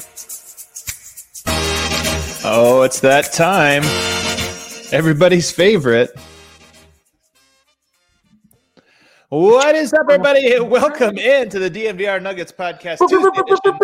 Oh, it's that time. Everybody's favorite. What is up, everybody? Welcome into the DNVR Nuggets podcast Tuesday edition.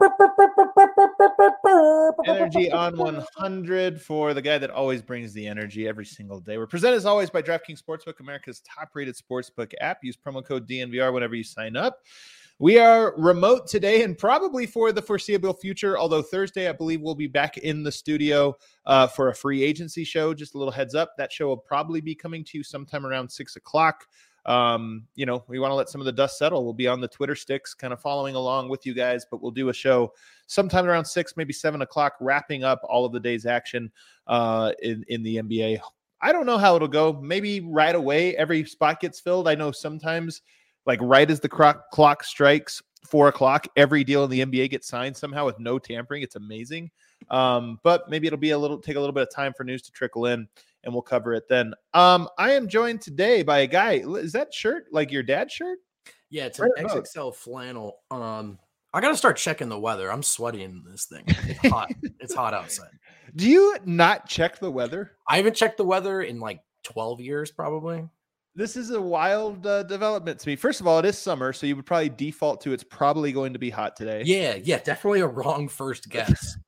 Energy on 100 for the guy that always brings the energy every single day. We're presented as always by DraftKings Sportsbook, America's top-rated sportsbook app. Use promo code DNVR whenever you sign up. We are remote today and probably for the foreseeable future, although Thursday, I believe, we'll be back in the studio for a free agency show. Just a little heads up. That show will probably be coming to you sometime around 6 o'clock. We want to let some of the dust settle. We'll be on the Twitter sticks kind of following along with you guys, but we'll do a show sometime around 6, maybe 7 o'clock, wrapping up all of the day's action in the NBA. I don't know how it'll go. Maybe right away, every spot gets filled. I know sometimes like right as the clock strikes 4 o'clock, every deal in the NBA gets signed somehow with no tampering. It's amazing. But maybe it'll be take a little bit of time for news to trickle in, and we'll cover it then. I am joined today by a guy. Is that shirt like your dad's shirt? Yeah, it's an XXL flannel. I got to start checking the weather. I'm sweaty in this thing. It's hot. It's hot outside. Do you not check the weather? I haven't checked the weather in like 12 years, probably. This is a wild development to me. First of all, it is summer, so you would probably default to it's probably going to be hot today. Yeah, definitely a wrong first guess.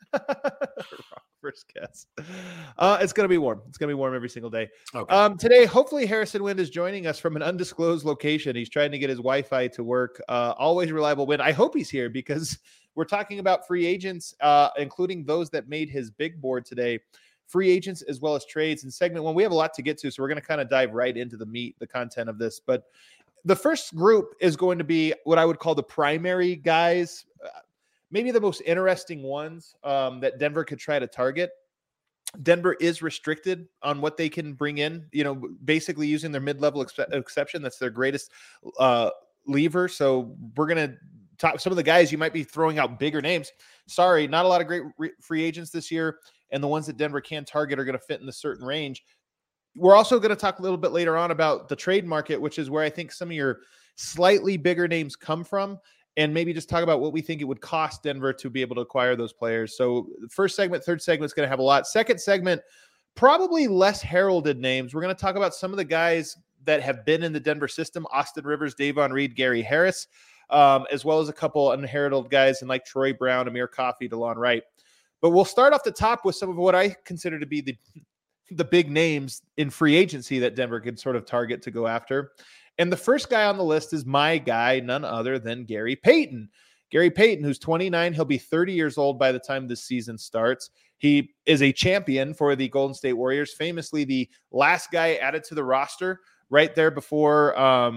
First guess. It's going to be warm. It's going to be warm every single day. Okay. Today, hopefully, Harrison Wind is joining us from an undisclosed location. He's trying to get his Wi-Fi to work. Always reliable Wind. I hope he's here because we're talking about free agents, including those that made his big board today. Free agents as well as trades. In segment one, we have a lot to get to, so we're going to kind of dive right into the content of this. But the first group is going to be what I would call the primary guys, maybe the most interesting ones that Denver could try to target. Denver is restricted on what they can bring in, basically using their mid-level exception. That's their greatest lever. So we're going to talk some of the guys you might be throwing out bigger names. Sorry, not a lot of great free agents this year. And the ones that Denver can target are going to fit in a certain range. We're also going to talk a little bit later on about the trade market, which is where I think some of your slightly bigger names come from, and maybe just talk about what we think it would cost Denver to be able to acquire those players. So the first segment, third segment is going to have a lot. Second segment, probably less heralded names. We're going to talk about some of the guys that have been in the Denver system: Austin Rivers, Davon Reed, Gary Harris, as well as a couple unheralded guys and like Troy Brown, Amir Coffey, DeLon Wright. But we'll start off the top with some of what I consider to be the big names in free agency that Denver could sort of target to go after. And the first guy on the list is my guy, none other than Gary Payton. Gary Payton, who's 29, he'll be 30 years old by the time this season starts. He is a champion for the Golden State Warriors, famously the last guy added to the roster right there before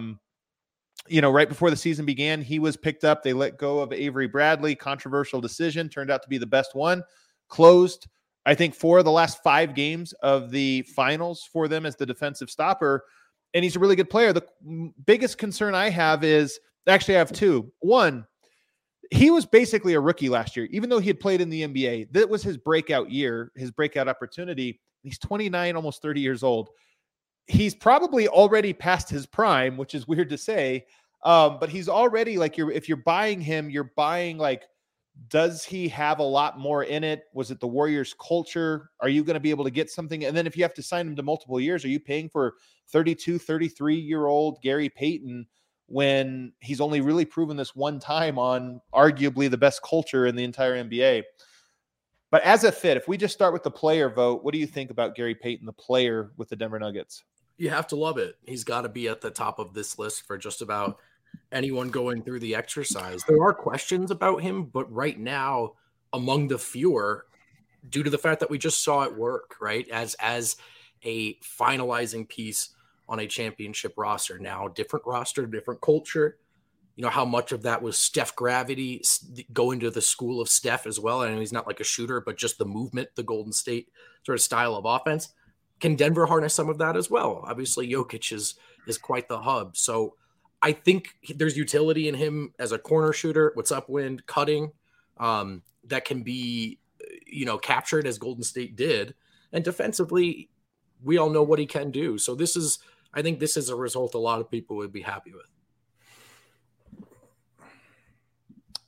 right before the season began. He was picked up. They let go of Avery Bradley. Controversial decision. Turned out to be the best one. Closed, I think, 4 of the last 5 games of the finals for them as the defensive stopper. And he's a really good player. The biggest concern I have is, actually I have 2. One, he was basically a rookie last year, even though he had played in the NBA. That was his breakout year, his breakout opportunity. He's 29, almost 30 years old. He's probably already past his prime, which is weird to say. But he's already if you're buying him, you're buying does he have a lot more in it? Was it the Warriors culture? Are you going to be able to get something? And then if you have to sign him to multiple years, are you paying for 32, 33-year-old Gary Payton when he's only really proven this one time on arguably the best culture in the entire NBA? But as a fit, if we just start with the player vote, what do you think about Gary Payton, the player with the Denver Nuggets? You have to love it. He's got to be at the top of this list for just about anyone going through the exercise. There are questions about him, but right now, among the fewer, due to the fact that we just saw it work, right? As a finalizing piece on a championship roster. Now, different roster, different culture. How much of that was Steph gravity going to the school of Steph as well. And he's not like a shooter, but just the movement, the Golden State sort of style of offense. Can Denver harness some of that as well? Obviously, Jokic is quite the hub. So I think there's utility in him as a corner shooter. What's up, Wind, cutting, that can be, captured as Golden State did. And defensively, we all know what he can do. So I think this is a result a lot of people would be happy with.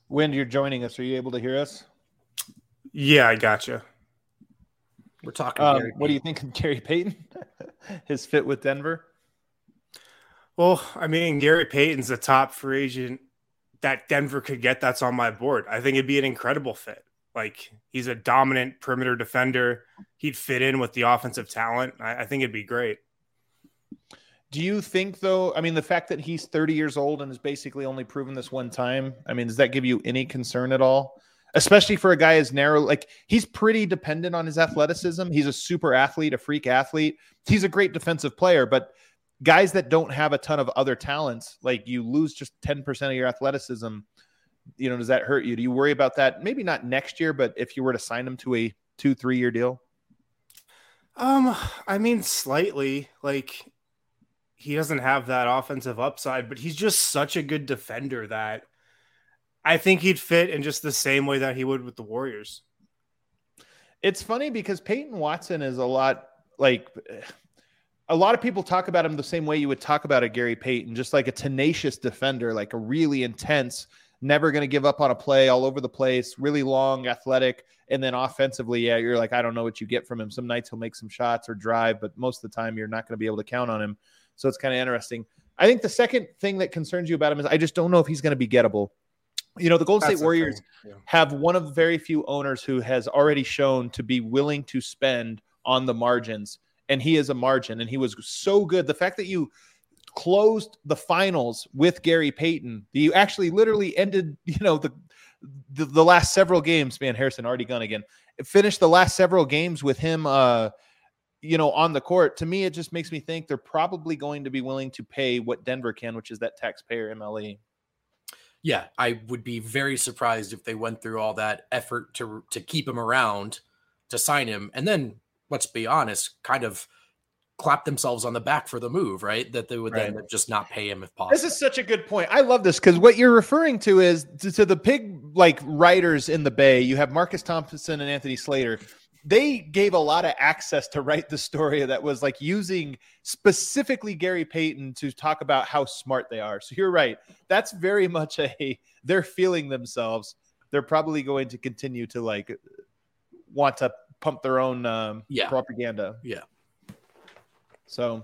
Wind, you're joining us. Are you able to hear us? Yeah, I gotcha. We're talking Gary what do you think of Gary Payton? His fit with Denver? Well, I mean, Gary Payton's the top free agent that Denver could get that's on my board. I think it'd be an incredible fit. Like, he's a dominant perimeter defender. He'd fit in with the offensive talent. I think it'd be great. Do you think, though, I mean, the fact that he's 30 years old and has basically only proven this one time, I mean, does that give you any concern at all? Especially for a guy as narrow, like, he's pretty dependent on his athleticism. He's a super athlete, a freak athlete. He's a great defensive player, but guys that don't have a ton of other talents, like, you lose just 10% of your athleticism, you know, does that hurt you? Do you worry about that? Maybe not next year, but if you were to sign him to a 2-3 year deal? I mean, slightly. Like, he doesn't have that offensive upside, but he's just such a good defender that I think he'd fit in just the same way that he would with the Warriors. It's funny because Peyton Watson is a lot of people talk about him the same way you would talk about a Gary Payton, just like a tenacious defender, like a really intense, never going to give up on a play, all over the place, really long, athletic. And then offensively, yeah, you're like, I don't know what you get from him. Some nights he'll make some shots or drive, but most of the time you're not going to be able to count on him. So it's kind of interesting. I think the second thing that concerns you about him is I just don't know if he's going to be gettable. You know, the Golden State Warriors have one of very few owners who has already shown to be willing to spend on the margins, and he is a margin, and he was so good. The fact that you closed the finals with Gary Payton, you actually literally ended, you know, the last several games. Man, Harrison already gone again. It finished the last several games with him, you know, on the court. To me, it just makes me think they're probably going to be willing to pay what Denver can, which is that taxpayer MLE. Yeah, I would be very surprised if they went through all that effort to keep him around, to sign him, and then, let's be honest, kind of clap themselves on the back for the move, right? That they would then just not pay him if possible. This is such a good point. I love this because what you're referring to is to the big like writers in the Bay. You have Marcus Thompson and Anthony Slater. They gave a lot of access to write the story that was like using specifically Gary Payton to talk about how smart they are. So you're right. That's very much they're feeling themselves. They're probably going to continue to like want to pump their own propaganda. Yeah. So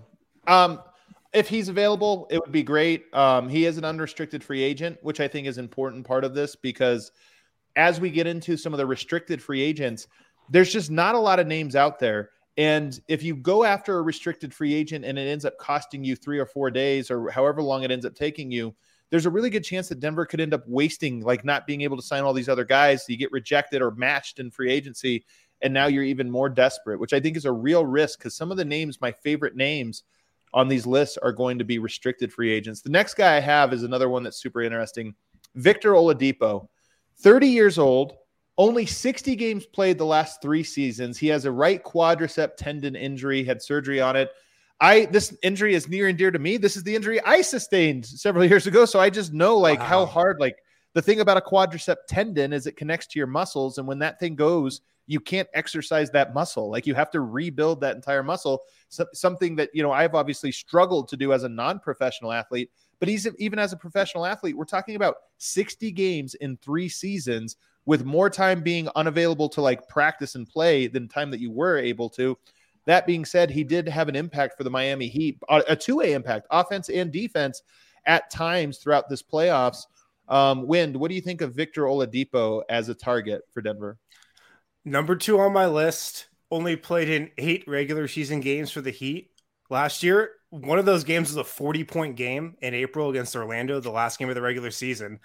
if he's available, it would be great. He is an unrestricted free agent, which I think is an important part of this because as we get into some of the restricted free agents, there's just not a lot of names out there. And if you go after a restricted free agent and it ends up costing you 3 or 4 days or however long it ends up taking you, there's a really good chance that Denver could end up wasting, like not being able to sign all these other guys. So you get rejected or matched in free agency. And now you're even more desperate, which I think is a real risk because some of the names, my favorite names on these lists are going to be restricted free agents. The next guy I have is another one that's super interesting. Victor Oladipo, 30 years old. Only 60 games played the last 3 seasons. He has a right quadricep tendon injury, had surgery on it. This injury is near and dear to me. This is the injury I sustained several years ago. So I just know how hard, the thing about a quadricep tendon is it connects to your muscles. And when that thing goes, you can't exercise that muscle. Like you have to rebuild that entire muscle. So, something that, you know, I've obviously struggled to do as a non-professional athlete, but even as a professional athlete, we're talking about 60 games in 3 seasons with more time being unavailable to like practice and play than time that you were able to. That being said, he did have an impact for the Miami Heat, a 2-way impact, offense and defense at times throughout this playoffs. Wind, what do you think of Victor Oladipo as a target for Denver? Number 2 on my list, only played in 8 regular season games for the Heat last year. One of those games was a 40-point game in April against Orlando, the last game of the regular season.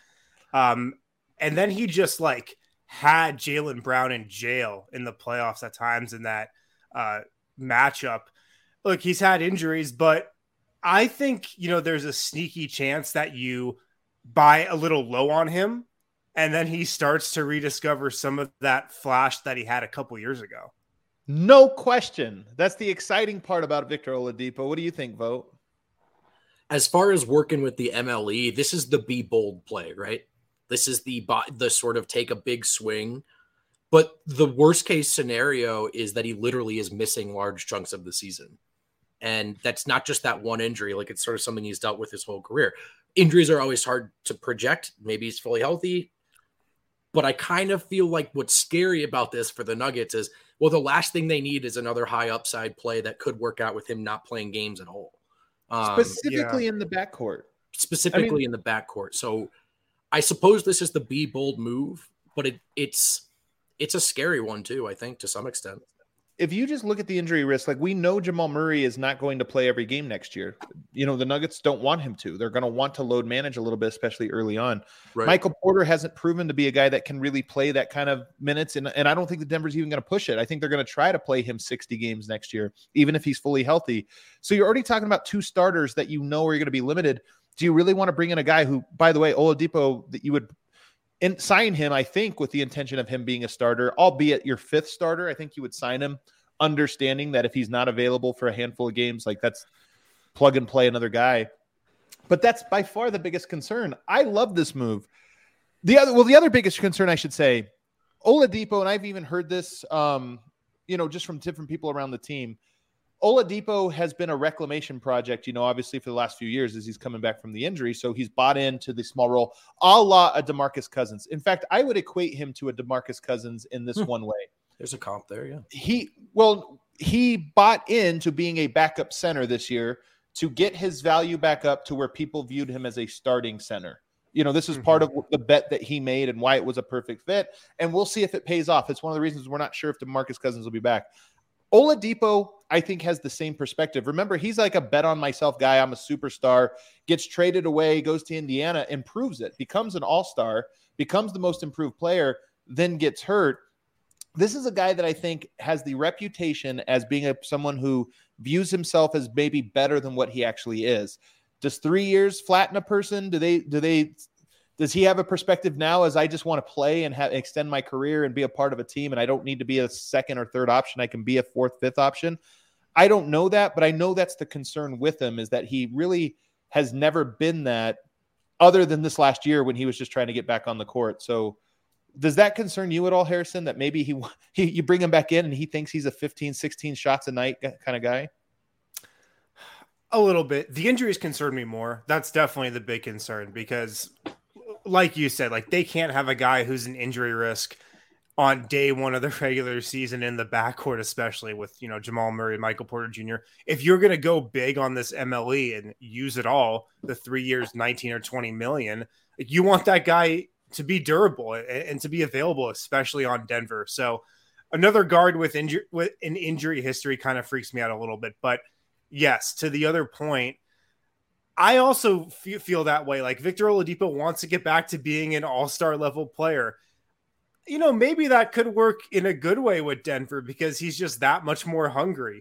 And then he just like had Jaylen Brown in jail in the playoffs at times in that matchup. Look, he's had injuries, but I think, you know, there's a sneaky chance that you buy a little low on him and then he starts to rediscover some of that flash that he had a couple years ago. No question. That's the exciting part about Victor Oladipo. What do you think, Vogt? As far as working with the MLE, this is the be bold play, right? This is the sort of take a big swing. But the worst case scenario is that he literally is missing large chunks of the season. And that's not just that one injury. Like it's sort of something he's dealt with his whole career. Injuries are always hard to project. Maybe he's fully healthy. But I kind of feel like what's scary about this for the Nuggets is, well, the last thing they need is another high upside play that could work out with him not playing games at all. Specifically in the backcourt. Specifically in the backcourt. So I suppose this is the be bold move, but it's a scary one too, I think, to some extent. If you just look at the injury risk, like we know Jamal Murray is not going to play every game next year. You know, the Nuggets don't want him to. They're going to want to load manage a little bit, especially early on. Right. Michael Porter hasn't proven to be a guy that can really play that kind of minutes. And I don't think the Denver's even going to push it. I think they're going to try to play him 60 games next year, even if he's fully healthy. So you're already talking about two starters that you know are going to be limited. Do you really want to bring in a guy who, by the way, Oladipo, that you would sign him, I think, with the intention of him being a starter, albeit your fifth starter? I think you would sign him, understanding that if he's not available for a handful of games, like that's plug and play another guy. But that's by far the biggest concern. I love this move. The other biggest concern, I should say, Oladipo, and I've even heard this, just from different people around the team. Oladipo has been a reclamation project, obviously for the last few years as he's coming back from the injury. So he's bought into the small role, a la a DeMarcus Cousins. In fact, I would equate him to a DeMarcus Cousins in this one way. There's a comp there, yeah. He bought into being a backup center this year to get his value back up to where people viewed him as a starting center. This is part of the bet that he made and why it was a perfect fit. And we'll see if it pays off. It's one of the reasons we're not sure if DeMarcus Cousins will be back. Oladipo, I think, has the same perspective. Remember, he's like a bet on myself guy. I'm a superstar, gets traded away, goes to Indiana, improves it, becomes an all-star, becomes the most improved player, then gets hurt. This is a guy that I think has the reputation as being someone who views himself as maybe better than what he actually is. Does 3 years flatten a person? Does he have a perspective now as I just want to play and extend my career and be a part of a team and I don't need to be a second or third option? I can be a fourth, fifth option. I don't know that, but I know that's the concern with him, is that he really has never been that other than this last year when he was just trying to get back on the court. So does that concern you at all, Harrison, that maybe you bring him back in and he thinks he's a 15, 16 shots a night kind of guy? A little bit. The injuries concern me more. That's definitely the big concern because, like you said, like they can't have a guy who's an injury risk on day one of the regular season in the backcourt, especially with, Jamal Murray, Michael Porter Jr. If you're going to go big on this MLE and use it all, the 3 years, 19 or 20 million, you want that guy to be durable and to be available, especially on Denver. So another guard with an injury history kind of freaks me out a little bit. But yes, to the other point, I also feel that way. Like Victor Oladipo wants to get back to being an all-star level player. Maybe that could work in a good way with Denver because he's just that much more hungry.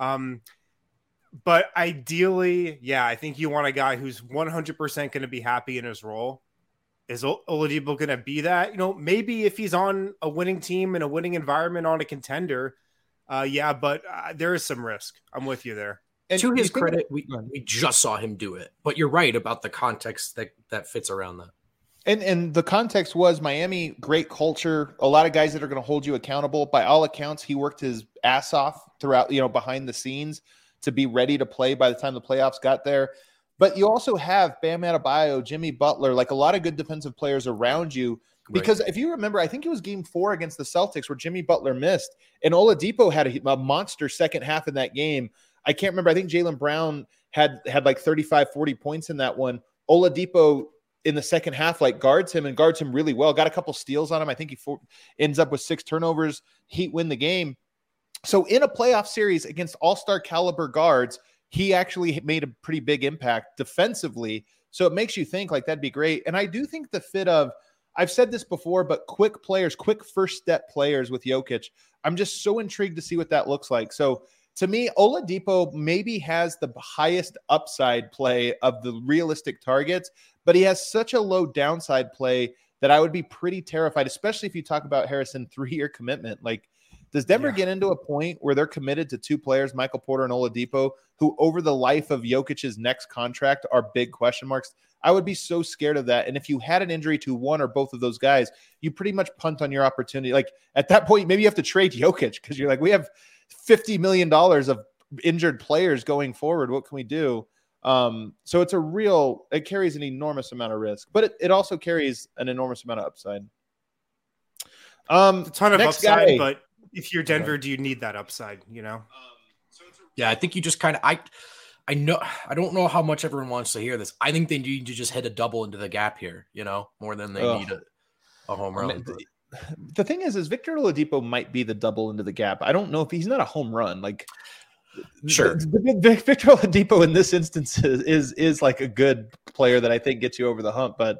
But ideally, yeah, I think you want a guy who's 100% going to be happy in his role. Is Oladipo going to be that? Maybe if he's on a winning team in a winning environment on a contender, but there is some risk. I'm with you there. And to his credit, we just saw him do it. But you're right about the context that fits around that. And the context was Miami, great culture, a lot of guys that are going to hold you accountable. By all accounts, he worked his ass off throughout, behind the scenes to be ready to play by the time the playoffs got there. But you also have Bam Adebayo, Jimmy Butler, like a lot of good defensive players around you. Because if you remember, I think it was game 4 against the Celtics where Jimmy Butler missed. And Oladipo had a monster second half in that game. I can't remember. I think Jaylen Brown had like 35, 40 points in that one. Oladipo in the second half guards him really well. Got a couple steals on him. I think he ends up with 6 turnovers. Heat win the game. So in a playoff series against all-star caliber guards, he actually made a pretty big impact defensively. So it makes you think that'd be great. And I do think the fit of, I've said this before, but quick first step players with Jokic, I'm just so intrigued to see what that looks like. So to me, Oladipo maybe has the highest upside play of the realistic targets, but he has such a low downside play that I would be pretty terrified, especially if you talk about Harrison 3-year commitment. Does Denver get into a point where they're committed to 2 players, Michael Porter and Oladipo, who over the life of Jokic's next contract are big question marks? I would be so scared of that. And if you had an injury to one or both of those guys, you pretty much punt on your opportunity. At that point, maybe you have to trade Jokic because you're we have $50 million of injured players going forward. What can we do? So it carries an enormous amount of risk, but it also carries an enormous amount of upside. A ton of Next upside, guy. but if you're Denver, do you need that upside? Yeah, I think you just kind of I know I don't know how much everyone wants to hear this. I think they need to just hit a double into the gap here, more than they need a home run. The thing is Victor Oladipo might be the double into the gap. I don't know if he's not a home run. Like, sure, Victor Oladipo in this instance is like a good player that I think gets you over the hump. But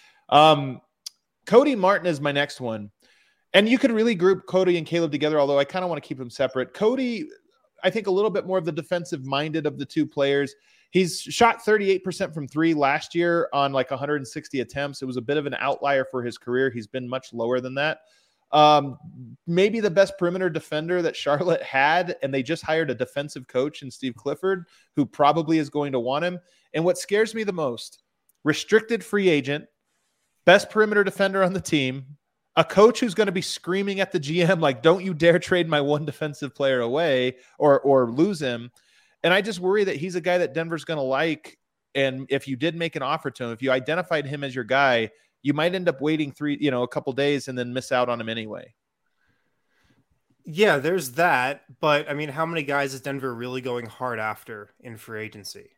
Cody Martin is my next one. And you could really group Cody and Caleb together, although I kind of want to keep them separate. Cody, I think a little bit more of the defensive-minded of the two players. He's shot 38% from three last year on like 160 attempts. It was a bit of an outlier for his career. He's been much lower than that. Maybe the best perimeter defender that Charlotte had, and they just hired a defensive coach in Steve Clifford, who probably is going to want him. And what scares me the most, restricted free agent, best perimeter defender on the team, a coach who's going to be screaming at the GM, like, don't you dare trade my one defensive player away or lose him. And I just worry that he's a guy that Denver's going to like. And if you did make an offer to him, if you identified him as your guy, you might end up waiting a couple days and then miss out on him anyway. Yeah, there's that. But I mean, how many guys is Denver really going hard after in free agency?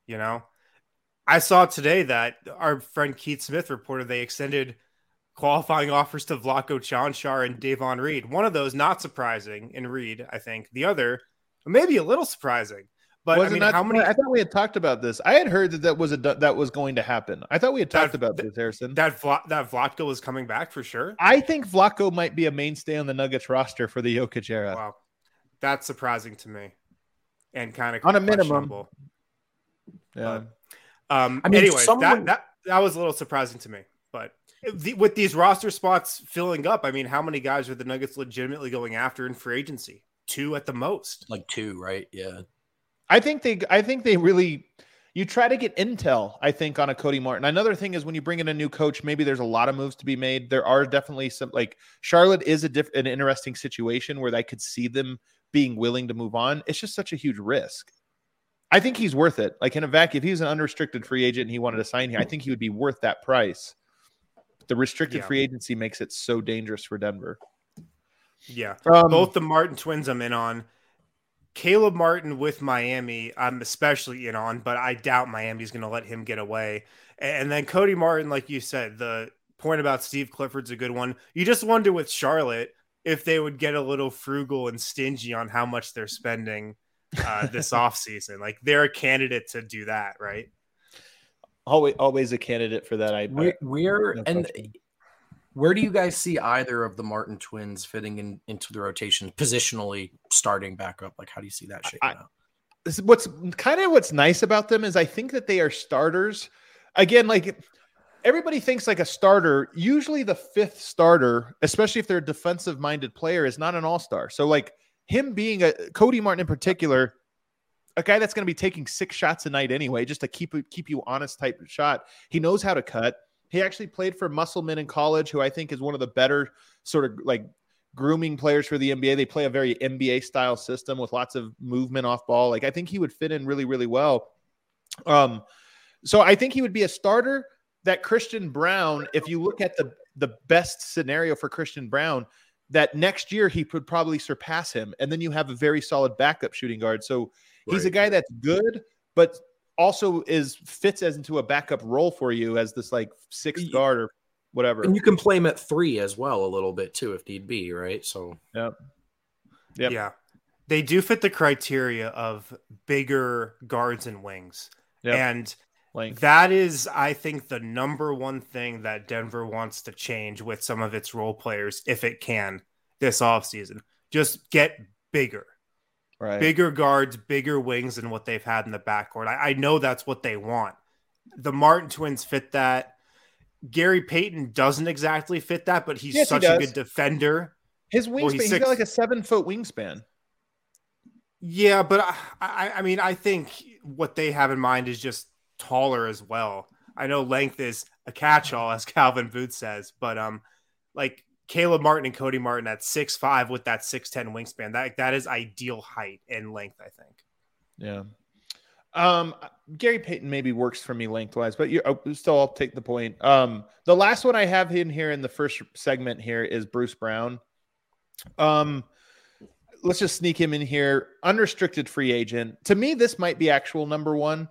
I saw today that our friend Keith Smith reported they extended qualifying offers to Vlatko Čančar and Davon Reed. One of those not surprising in Reed, I think. The other maybe a little surprising. But I mean, how many? I thought we had talked about this. I had heard that was going to happen. I thought we had talked about this, Harrison. That Vlatko was coming back for sure. I think Vlatko might be a mainstay on the Nuggets roster for the Jokic era. Wow, that's surprising to me, and kind of on a minimum. Yeah. But, anyways, that was a little surprising to me. But with these roster spots filling up, I mean, how many guys are the Nuggets legitimately going after in free agency? 2 at the most. Like 2, right? Yeah. I think they really, you try to get intel, I think, on a Cody Martin. Another thing is when you bring in a new coach, maybe there's a lot of moves to be made. There are definitely some, like Charlotte is an interesting situation where I could see them being willing to move on. It's just such a huge risk. I think he's worth it. Like in a vacuum, if he's an unrestricted free agent and he wanted to sign here, I think he would be worth that price. The restricted free agency makes it so dangerous for Denver. Yeah. Both the Martin twins I'm in on. Caleb Martin with Miami, I'm especially in on, but I doubt Miami's going to let him get away. And then Cody Martin, like you said, the point about Steve Clifford's a good one. You just wonder with Charlotte if they would get a little frugal and stingy on how much they're spending this offseason. Like they're a candidate to do that, right? Always a candidate for that. Where do you guys see either of the Martin twins fitting into the rotation positionally, starting back up? Like, how do you see that shaking out? What's nice about them is I think that they are starters. Again, like everybody thinks like a starter, usually the 5th starter, especially if they're a defensive-minded player, is not an all-star. So like him being Cody Martin in particular, a guy that's going to be taking 6 shots a night anyway, just to keep you honest type of shot. He knows how to cut. He actually played for Musselman in college, who I think is one of the better sort of like grooming players for the NBA. They play a very NBA style system with lots of movement off ball. Like I think he would fit in really, really well. So I think he would be a starter. That Christian Braun, if you look at the best scenario for Christian Braun, that next year he could probably surpass him. And then you have a very solid backup shooting guard. So he's a guy that's good, but also fits as into a backup role for you as this like 6th guard or whatever. And you can play him at 3 as well a little bit too, if need be, right? So yeah, they do fit the criteria of bigger guards and wings. And that is, I think, the number one thing that Denver wants to change with some of its role players, if it can, this offseason. Just get bigger. Right. Bigger guards, bigger wings than what they've had in the backcourt. I know that's what they want. The Martin twins fit that. Gary Payton doesn't exactly fit that, but he's such a good defender. His wingspan, he's got like a 7-foot wingspan. Yeah, but I mean, I think what they have in mind is just taller as well. I know length is a catch-all, as Calvin Booth says, but like Caleb Martin and Cody Martin at 6'5" with that 6'10" wingspan. That is ideal height and length, I think. Yeah. Gary Payton maybe works for me lengthwise, but I'll take the point. The last one I have in here in the first segment here is Bruce Brown. Let's just sneak him in here. Unrestricted free agent. To me, this might be actual number one.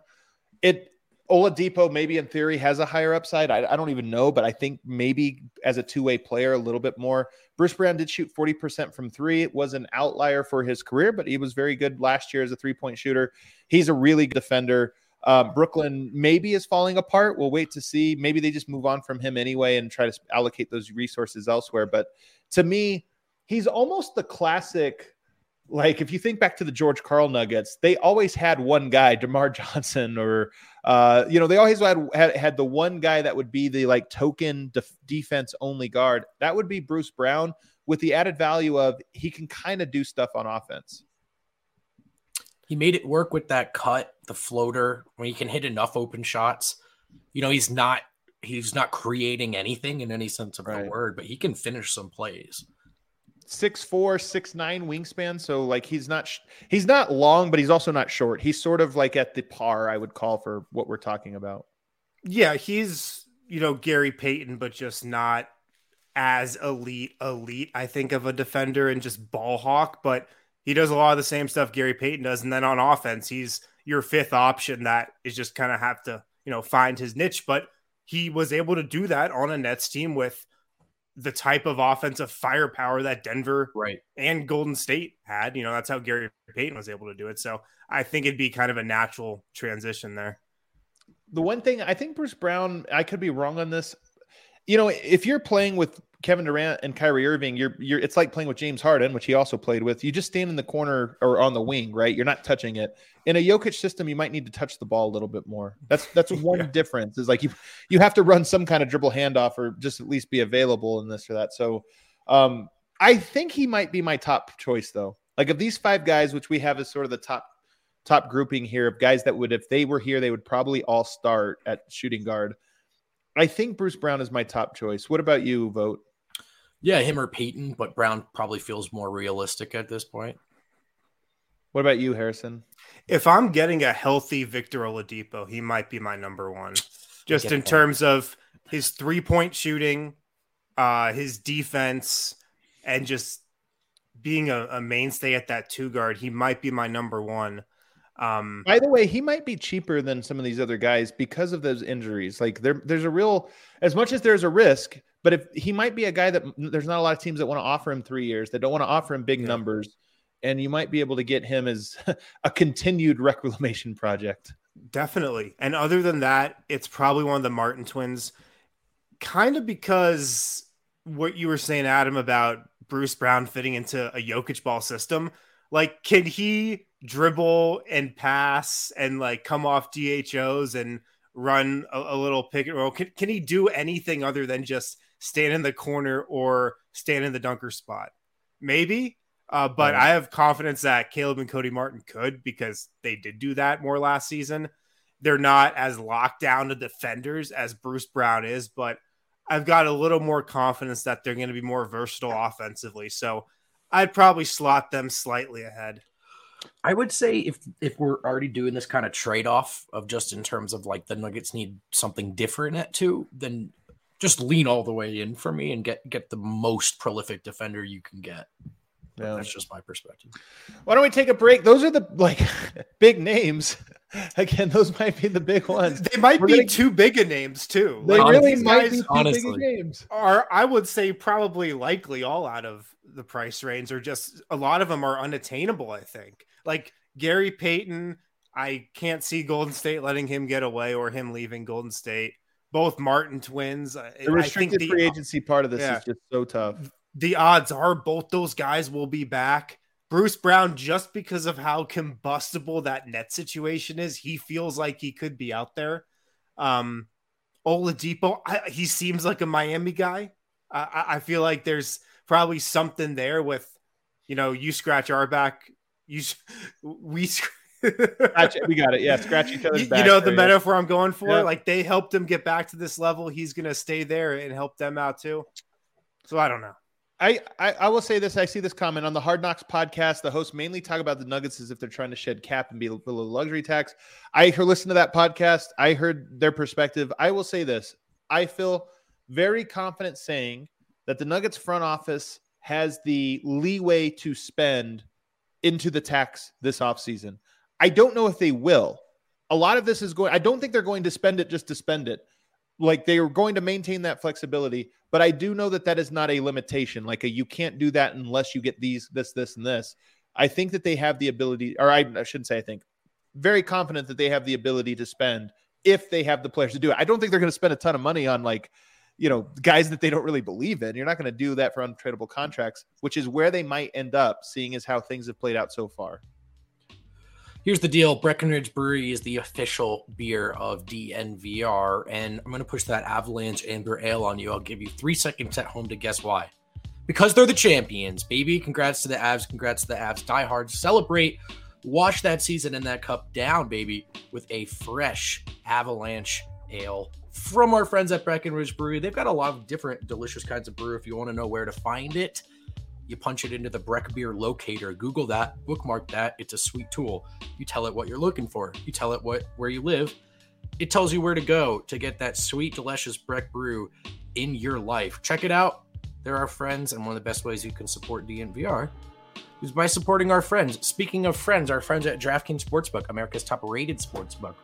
Oladipo maybe in theory has a higher upside. I don't even know, but I think maybe as a two-way player a little bit more. Bruce Brown did shoot 40% from three. It was an outlier for his career, but he was very good last year as a three-point shooter. He's a really good defender. Brooklyn maybe is falling apart. We'll wait to see. Maybe they just move on from him anyway and try to allocate those resources elsewhere. But to me, he's almost the classic. Like if you think back to the George Karl Nuggets, they always had one guy, DeMar Johnson, or they always had the one guy that would be the like token defense only guard. That would be Bruce Brown, with the added value of he can kind of do stuff on offense. He made it work with that cut, the floater, when he can hit enough open shots. He's not creating anything in any sense of the word, but he can finish some plays. 6'4", 6'9" wingspan. So like he's not long, but he's also not short. He's sort of like at the par I would call for what we're talking about. Yeah, he's Gary Payton, but just not as elite. I think of a defender and just ball hawk, but he does a lot of the same stuff Gary Payton does. And then on offense, he's your fifth option that is just kind of have to find his niche. But he was able to do that on a Nets team with the type of offensive firepower that Denver and Golden State had. That's how Gary Payton was able to do it. So I think it'd be kind of a natural transition there. The one thing I think Bruce Brown, I could be wrong on this. If you're playing with Kevin Durant and Kyrie Irving, it's like playing with James Harden, which he also played with. You just stand in the corner or on the wing, right? You're not touching it. In a Jokic system, you might need to touch the ball a little bit more. That's one difference. Is like you have to run some kind of dribble handoff or just at least be available in this or that. So I think he might be my top choice though. Like of these five guys, which we have as sort of the top grouping here of guys that would, if they were here, they would probably all start at shooting guard. I think Bruce Brown is my top choice. What about you, Vote? Yeah, him or Peyton, but Brown probably feels more realistic at this point. What about you, Harrison? If I'm getting a healthy Victor Oladipo, he might be my number one. Just in terms of his three-point shooting, his defense, and just being a mainstay at that two guard, he might be my number one. By the way, he might be cheaper than some of these other guys because of those injuries. Like there's a real, as much as there's a risk, but if he might be a guy that there's not a lot of teams that want to offer him 3 years, that don't want to offer him big numbers, and you might be able to get him as a continued reclamation project. Definitely. And other than that, it's probably one of the Martin twins, kind of because what you were saying, Adam, about Bruce Brown fitting into a Jokic ball system. Like, can he dribble and pass and like come off DHOs and run a little pick and roll? Can he do anything other than just stand in the corner or stand in the dunker spot? Maybe. But I have confidence that Caleb and Cody Martin could, because they did do that more last season. They're not as locked down to defenders as Bruce Brown is, but I've got a little more confidence that they're going to be more versatile offensively. So I'd probably slot them slightly ahead. I would say if we're already doing this kind of trade-off of just in terms of like the Nuggets need something different at two, then just lean all the way in for me and get the most prolific defender you can get. Yeah, that's just my perspective. Why don't we take a break? Those are the like big names. Again, those might be the big ones. They might be too big of names too. They really might be too big of names. Are, I would say, probably likely all out of the price range, or just a lot of them are unattainable. I think like Gary Payton, I can't see Golden State letting him get away or him leaving Golden State. Both Martin twins. The restricted free agency part of this is just so tough. The odds are both those guys will be back. Bruce Brown, just because of how combustible that net situation is, he feels like he could be out there. Oladipo, he seems like a Miami guy. I feel like there's probably something there with, you scratch our back, we got it. Yeah, scratch each other's back. The metaphor I'm going for. Yeah. Like they helped him get back to this level. He's going to stay there and help them out too. So I don't know. I will say this. I see this comment on the Hard Knocks podcast. The hosts mainly talk about the Nuggets as if they're trying to shed cap and be below luxury tax. I listened to that podcast. I heard their perspective. I will say this. I feel very confident saying that the Nuggets front office has the leeway to spend into the tax this offseason. I don't know if they will. A lot of this is I don't think they're going to spend it just to spend it. Like they are going to maintain that flexibility, but I do know that is not a limitation. Like you can't do that unless you get this, and this. I think that they have the ability, or I shouldn't say I think, very confident that they have the ability to spend if they have the players to do it. I don't think they're going to spend a ton of money on guys that they don't really believe in. You're not going to do that for untradeable contracts, which is where they might end up, seeing as how things have played out so far. Here's the deal. Breckenridge Brewery is the official beer of DNVR, and I'm going to push that Avalanche Amber Ale on you. I'll give you 3 seconds at home to guess why. Because they're the champions, baby. Congrats to the Avs. Congrats to the Avs. Die hard. Celebrate. Wash that season and that cup down, baby, with a fresh Avalanche Ale from our friends at Breckenridge Brewery. They've got a lot of different delicious kinds of brew. If you want to know where to find it, you punch it into the Breck Beer locator. Google that, bookmark that. It's a sweet tool. You tell it what you're looking for. You tell it where you live. It tells you where to go to get that sweet, delicious Breck brew in your life. Check it out. They're our friends, and one of the best ways you can support DNVR is by supporting our friends. Speaking of friends, our friends at DraftKings Sportsbook, America's top-rated sportsbook,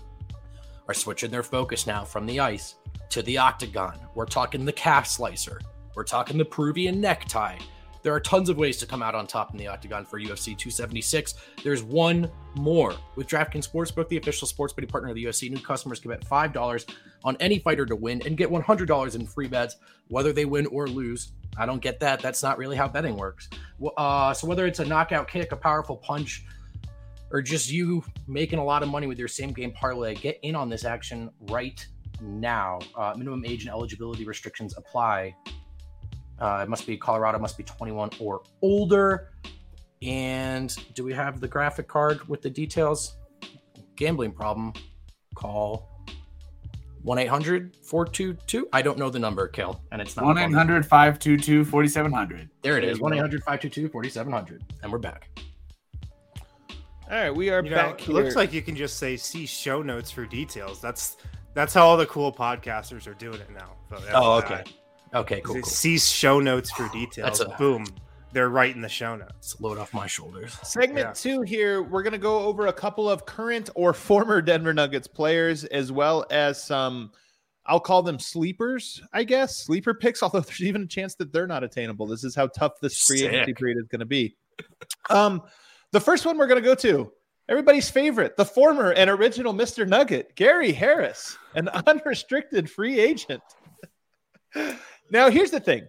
are switching their focus now from the ice to the octagon. We're talking the calf slicer. We're talking the Peruvian necktie. There are tons of ways to come out on top in the octagon for UFC 276. There's one more. With DraftKings Sportsbook, the official sports betting partner of the UFC, new customers can bet $5 on any fighter to win and get $100 in free bets, whether they win or lose. I don't get that. That's not really how betting works. So whether it's a knockout kick, a powerful punch, or just you making a lot of money with your same game parlay, get in on this action right now. Minimum age and eligibility restrictions apply. It must be Colorado, must be 21 or older. And do we have the graphic card with the details? Gambling problem, call 1-800-422. I don't know the number, Kel, and it's not 1-800-522-4700. There it is, 1-800-522-4700. And we're back. All right, we are back It here. looks like you can just say see show notes for details. That's how all the cool podcasters are doing it now. So Okay. Okay, cool. See show notes for details. Boom. They're right in the show notes. It's a load off my shoulders. Segment 2 here, we're going to go over a couple of current or former Denver Nuggets players, as well as some, I'll call them sleepers, I guess. Sleeper picks, although there's even a chance that they're not attainable. This is how tough this free agency period is going to be. The first one we're going to go to, everybody's favorite, the former and original Mr. Nugget, Gary Harris, an unrestricted free agent. Now, here's the thing.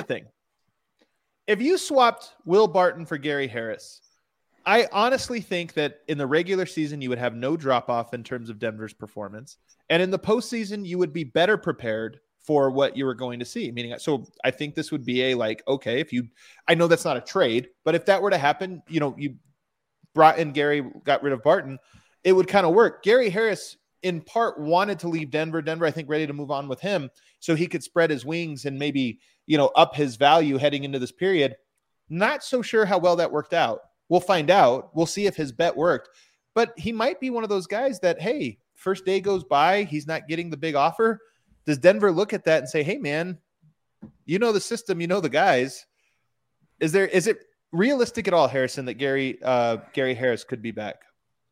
If you swapped Will Barton for Gary Harris, I honestly think that in the regular season, you would have no drop-off in terms of Denver's performance. And in the postseason, you would be better prepared for what you were going to see. So I think this would be okay, I know that's not a trade, but if that were to happen, you brought in Gary, got rid of Barton, it would kind of work. Gary Harris, in part, wanted to leave Denver. Denver, I think, ready to move on with him so he could spread his wings and maybe, up his value heading into this period. Not so sure how well that worked out. We'll find out. We'll see if his bet worked. But he might be one of those guys that, hey, first day goes by, he's not getting the big offer. Does Denver look at that and say, hey, man, the system, the guys. Is it realistic at all, Harrison, that Gary Harris could be back?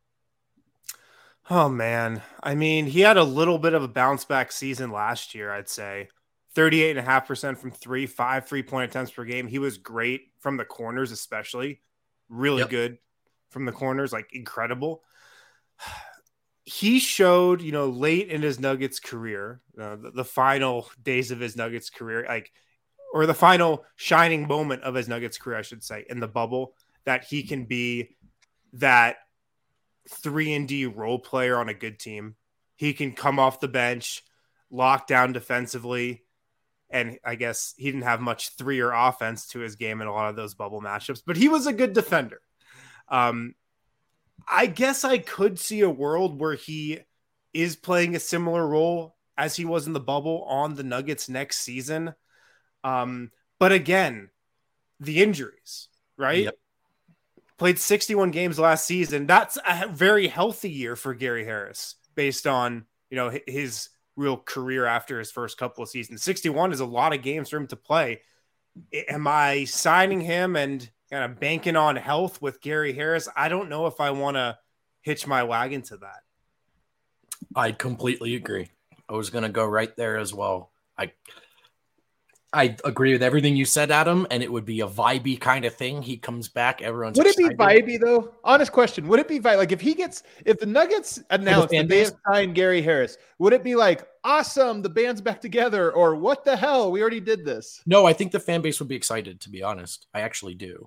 Oh, man. I mean, he had a little bit of a bounce back season last year, I'd say. 38.5% from 5 3-point attempts per game. He was great from the corners, especially. Really good from the corners, incredible. He showed, late in his Nuggets career, the final days of his Nuggets career, or the final shining moment of his Nuggets career, I should say, in the bubble, that he can be that 3-and-D role player on a good team. He can come off the bench, lock down defensively, and I guess he didn't have much 3 or offense to his game in a lot of those bubble matchups, but he was a good defender. I guess I could see a world where he is playing a similar role as he was in the bubble on the Nuggets next season. But again, the injuries, right? Yep. Played 61 games last season. That's a very healthy year for Gary Harris based on, his real career after his first couple of seasons. 61 is a lot of games for him to play. Am I signing him and kind of banking on health with Gary Harris? I don't know if I want to hitch my wagon to that. I completely agree. I was going to go right there as well. I agree with everything you said, Adam, and it would be a vibey kind of thing. He comes back, everyone's Would excited. it be vibey though? Honest question. Would it be vibey? Like if the Nuggets announced that they have signed Gary Harris, would it be like, awesome, the band's back together, or what the hell? We already did this. No, I think the fan base would be excited, to be honest. I actually do.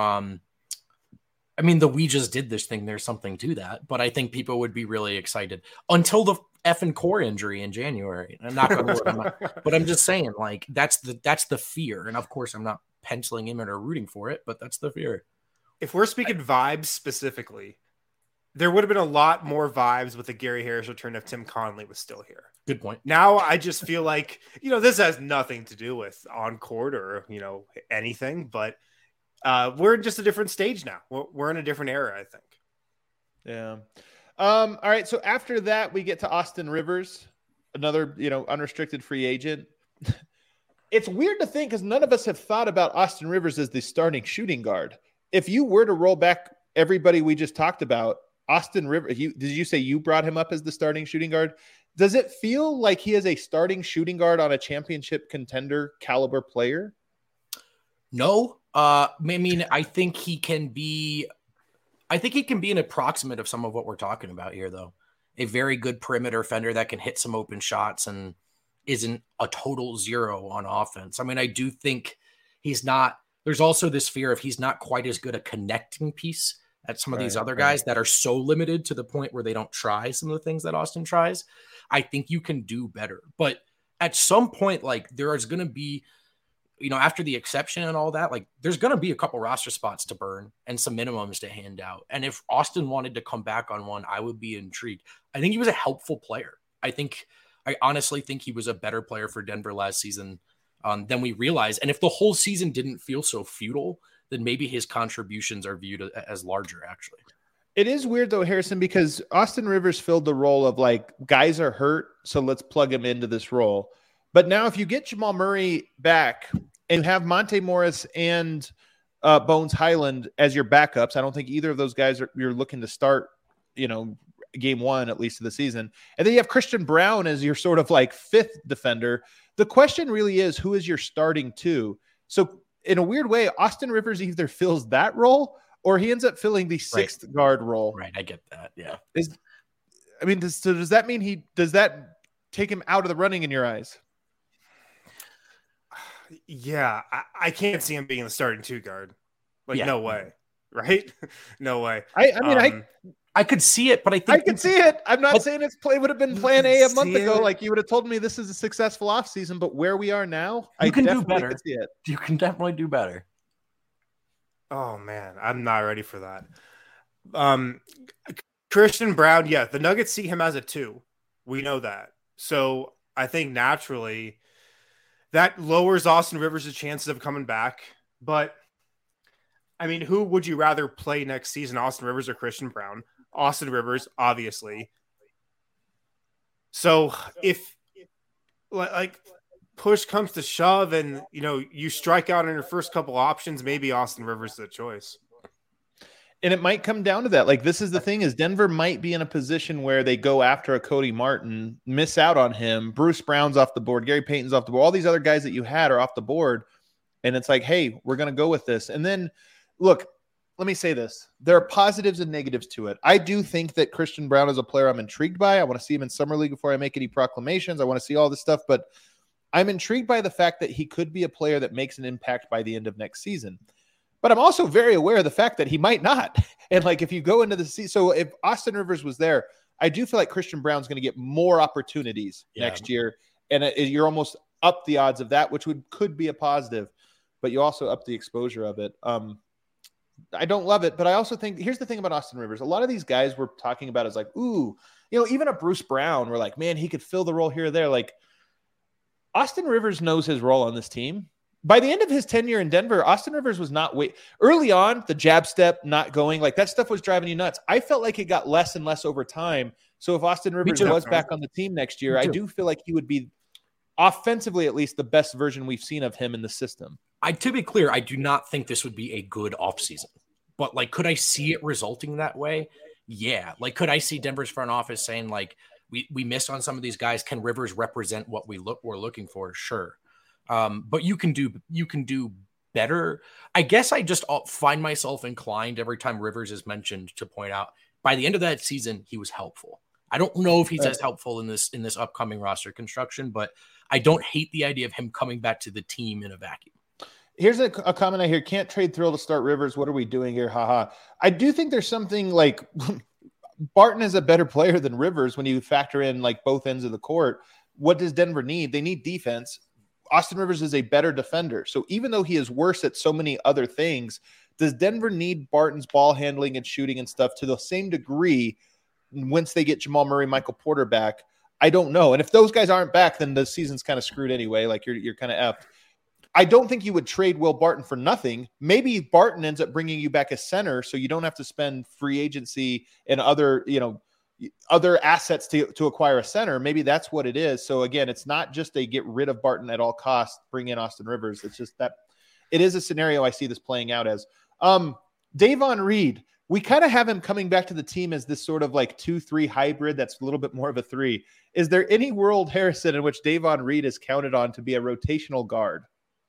I mean, we just did this thing. There's something to that, but I think people would be really excited until the effing core injury in January. I'm not going to, but I'm just saying, like, that's the fear. And of course, I'm not penciling him in or rooting for it, but that's the fear. If we're speaking vibes specifically, there would have been a lot more vibes with the Gary Harris return if Tim Connelly was still here. Good point. Now I just feel like, this has nothing to do with on court or, anything, but we're in just a different stage now. We're in a different era, I think. Yeah. All right. So after that, we get to Austin Rivers, another, unrestricted free agent. It's weird to think because none of us have thought about Austin Rivers as the starting shooting guard. If you were to roll back everybody we just talked about, Austin Rivers, did you say you brought him up as the starting shooting guard? Does it feel like he is a starting shooting guard on a championship contender caliber player? No. I mean, I think he can be an approximate of some of what we're talking about here, though. A very good perimeter defender that can hit some open shots and isn't a total zero on offense. I mean, I do think there's also this fear of he's not quite as good a connecting piece as some of these other guys that are so limited to the point where they don't try some of the things that Austin tries. I think you can do better. But at some point, like, there is going to be, after the exception and all that, like, there's going to be a couple roster spots to burn and some minimums to hand out. And if Austin wanted to come back on one, I would be intrigued. I think he was a helpful player. I honestly think he was a better player for Denver last season than we realized. And if the whole season didn't feel so futile, then maybe his contributions are viewed as larger, actually. It is weird, though, Harrison, because Austin Rivers filled the role of, like, guys are hurt, so let's plug him into this role. But now if you get Jamal Murray back and have Monte Morris and Bones Highland as your backups, I don't think either of those guys you're looking to start, game one, at least of the season. And then you have Christian Brown as your sort of like fifth defender. The question really is, who is your starting two? So in a weird way, Austin Rivers either fills that role or he ends up filling the sixth guard role. Right. I get that. Yeah. Does that mean does that take him out of the running in your eyes? Yeah. I can't see him being the starting two guard. No way. Right? No way. I could see it, but I can see it. I'm not saying it would have been plan A a month ago. Like, you would have told me this is a successful offseason, but where we are now, you can do better. See it. You can definitely do better. Oh man, I'm not ready for that. Christian Brown, yeah, the Nuggets see him as a 2. We know that. So I think naturally that lowers Austin Rivers' chances of coming back. But I mean, who would you rather play next season, Austin Rivers or Christian Brown? Austin Rivers, obviously. So if like push comes to shove and, you strike out on your first couple options, maybe Austin Rivers is the choice. And it might come down to that. Like, this is the thing, is Denver might be in a position where they go after a Cody Martin, miss out on him. Bruce Brown's off the board. Gary Payton's off the board. All these other guys that you had are off the board. And it's like, hey, we're going to go with this. And then, look, let me say this. There are positives and negatives to it. I do think that Christian Brown is a player I'm intrigued by. I want to see him in Summer League before I make any proclamations. I want to see all this stuff. But I'm intrigued by the fact that he could be a player that makes an impact by the end of next season. But I'm also very aware of the fact that he might not. And like, if you go into the season, so if Austin Rivers was there, I do feel like Christian Brown's going to get more opportunities next year. And you're almost up the odds of that, which could be a positive, but you also up the exposure of it. I don't love it, but I also think, here's the thing about Austin Rivers. A lot of these guys we're talking about is like, ooh, even a Bruce Brown, we're like, man, he could fill the role here or there. Like, Austin Rivers knows his role on this team. by the end of his tenure in Denver, Austin Rivers was not early on, the jab step not going, like that stuff was driving you nuts. I felt like it got less and less over time. So if Austin Rivers was back on the team next year, I do feel like he would be offensively at least the best version we've seen of him in the system. To be clear, I do not think this would be a good offseason. But like, could I see it resulting that way? Yeah. Like, could I see Denver's front office saying like, we missed on some of these guys. Can Rivers represent what we're looking for? Sure. But you can do better. I guess I just find myself inclined every time Rivers is mentioned to point out by the end of that season, he was helpful. I don't know if he's as helpful in this upcoming roster construction, but I don't hate the idea of him coming back to the team in a vacuum. Here's a comment I hear. Can't trade Thrill to start Rivers. What are we doing here? Haha. I do think there's something like Barton is a better player than Rivers when you factor in like both ends of the court. What does Denver need? They need defense. Austin Rivers is a better defender. So even though he is worse at so many other things, does Denver need Barton's ball handling and shooting and stuff to the same degree once they get Jamal Murray, Michael Porter back? I don't know. And if those guys aren't back, then the season's kind of screwed anyway. Like you're kind of effed. I don't think you would trade Will Barton for nothing. Maybe Barton ends up bringing you back a center so you don't have to spend free agency and other assets to acquire a center. Maybe that's what it is. So again, it's not just a get rid of Barton at all costs, bring in Austin Rivers. It's just that it is a scenario I see this playing out as. Davon Reed, we kind of have him coming back to the team as this sort of like 2-3 hybrid that's a little bit more of a 3. Is there any world, Harrison, in which Davon Reed is counted on to be a rotational guard?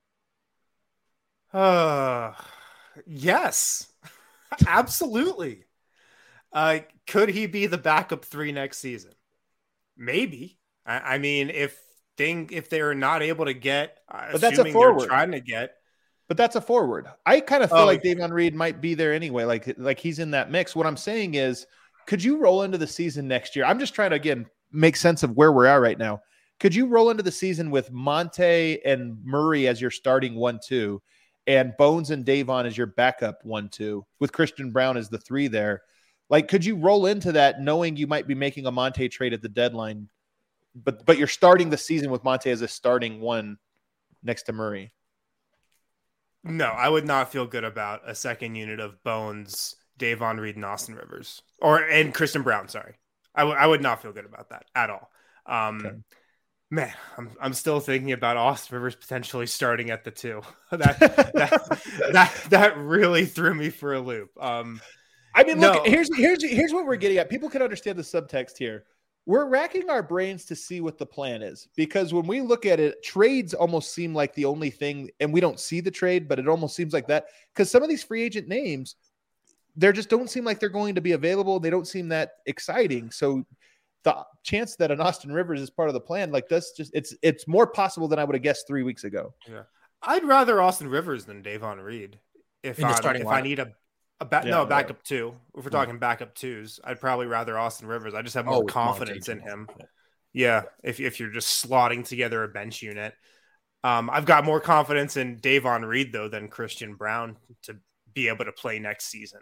Yes, absolutely. Could he be the backup 3 next season? Maybe. I mean, if they're not able to get, but that's a forward. Trying to get. But that's a forward. I kind of feel like Davon Reed might be there anyway. Like he's in that mix. What I'm saying is, could you roll into the season next year? I'm just trying to, again, make sense of where we're at right now. Could you roll into the season with Monte and Murray as your starting 1-2 and Bones and Davon as your backup 1-2 with Christian Brown as the 3 there? Like, could you roll into that knowing you might be making a Monte trade at the deadline, but you're starting the season with Monte as a starting 1 next to Murray? No, I would not feel good about a second unit of Bones, Davon Reed, and Austin Rivers, and Christian Brown. Sorry, I would not feel good about that at all. Okay. Man, I'm still thinking about Austin Rivers potentially starting at the 2. That really threw me for a loop. I mean, look, here's what we're getting at. People can understand the subtext here. We're racking our brains to see what the plan is, because when we look at it, trades almost seem like the only thing, and we don't see the trade, but it almost seems like that because some of these free agent names, they just don't seem like they're going to be available. They don't seem that exciting. So the chance that an Austin Rivers is part of the plan, like that's just, it's more possible than I would have guessed 3 weeks ago. Yeah. I'd rather Austin Rivers than Davon Reed. If I need a backup 2. If we're talking backup 2s, I'd probably rather Austin Rivers. I just have more confidence in him. Yeah, if you're just slotting together a bench unit. I've got more confidence in Davon Reed, though, than Christian Brown to be able to play next season.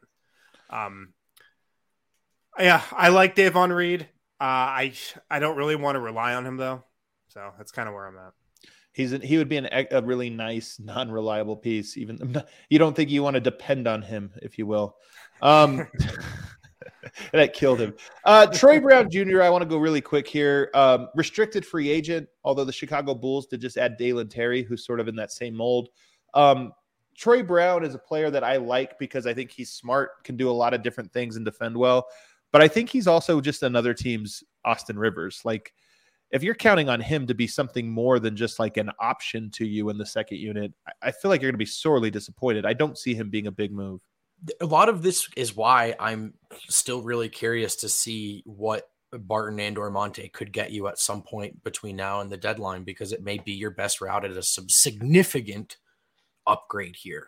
Yeah, I like Davon Reed. I don't really want to rely on him, though. So that's kind of where I'm at. He would be a really nice, non-reliable piece. Even you don't think you want to depend on him, if you will. That killed him. Troy Brown Jr., I want to go really quick here. Restricted free agent, although the Chicago Bulls did just add Dalen Terry, who's sort of in that same mold. Troy Brown is a player that I like because I think he's smart, can do a lot of different things and defend well. But I think he's also just another team's Austin Rivers. Like, if you're counting on him to be something more than just like an option to you in the second unit, I feel like you're going to be sorely disappointed. I don't see him being a big move. A lot of this is why I'm still really curious to see what Barton and or Monte could get you at some point between now and the deadline, because it may be your best route at a significant upgrade here.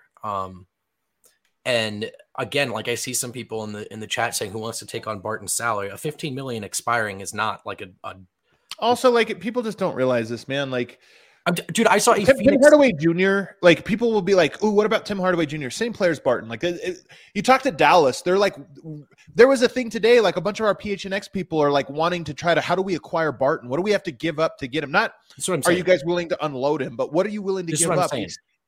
And again, like I see some people in the chat saying who wants to take on Barton's salary. A $15 million expiring is not like a also, like, people just don't realize this, man. Like, dude, I saw Tim Hardaway Jr. Like, people will be like, "Oh, what about Tim Hardaway Jr.?" Same player as Barton. Like, you talk to Dallas, they're like, there was a thing today. Like, a bunch of our PHNX people are like wanting to try to, how do we acquire Barton? What do we have to give up to get him? Not, are you guys willing to unload him? But what are you willing to give up?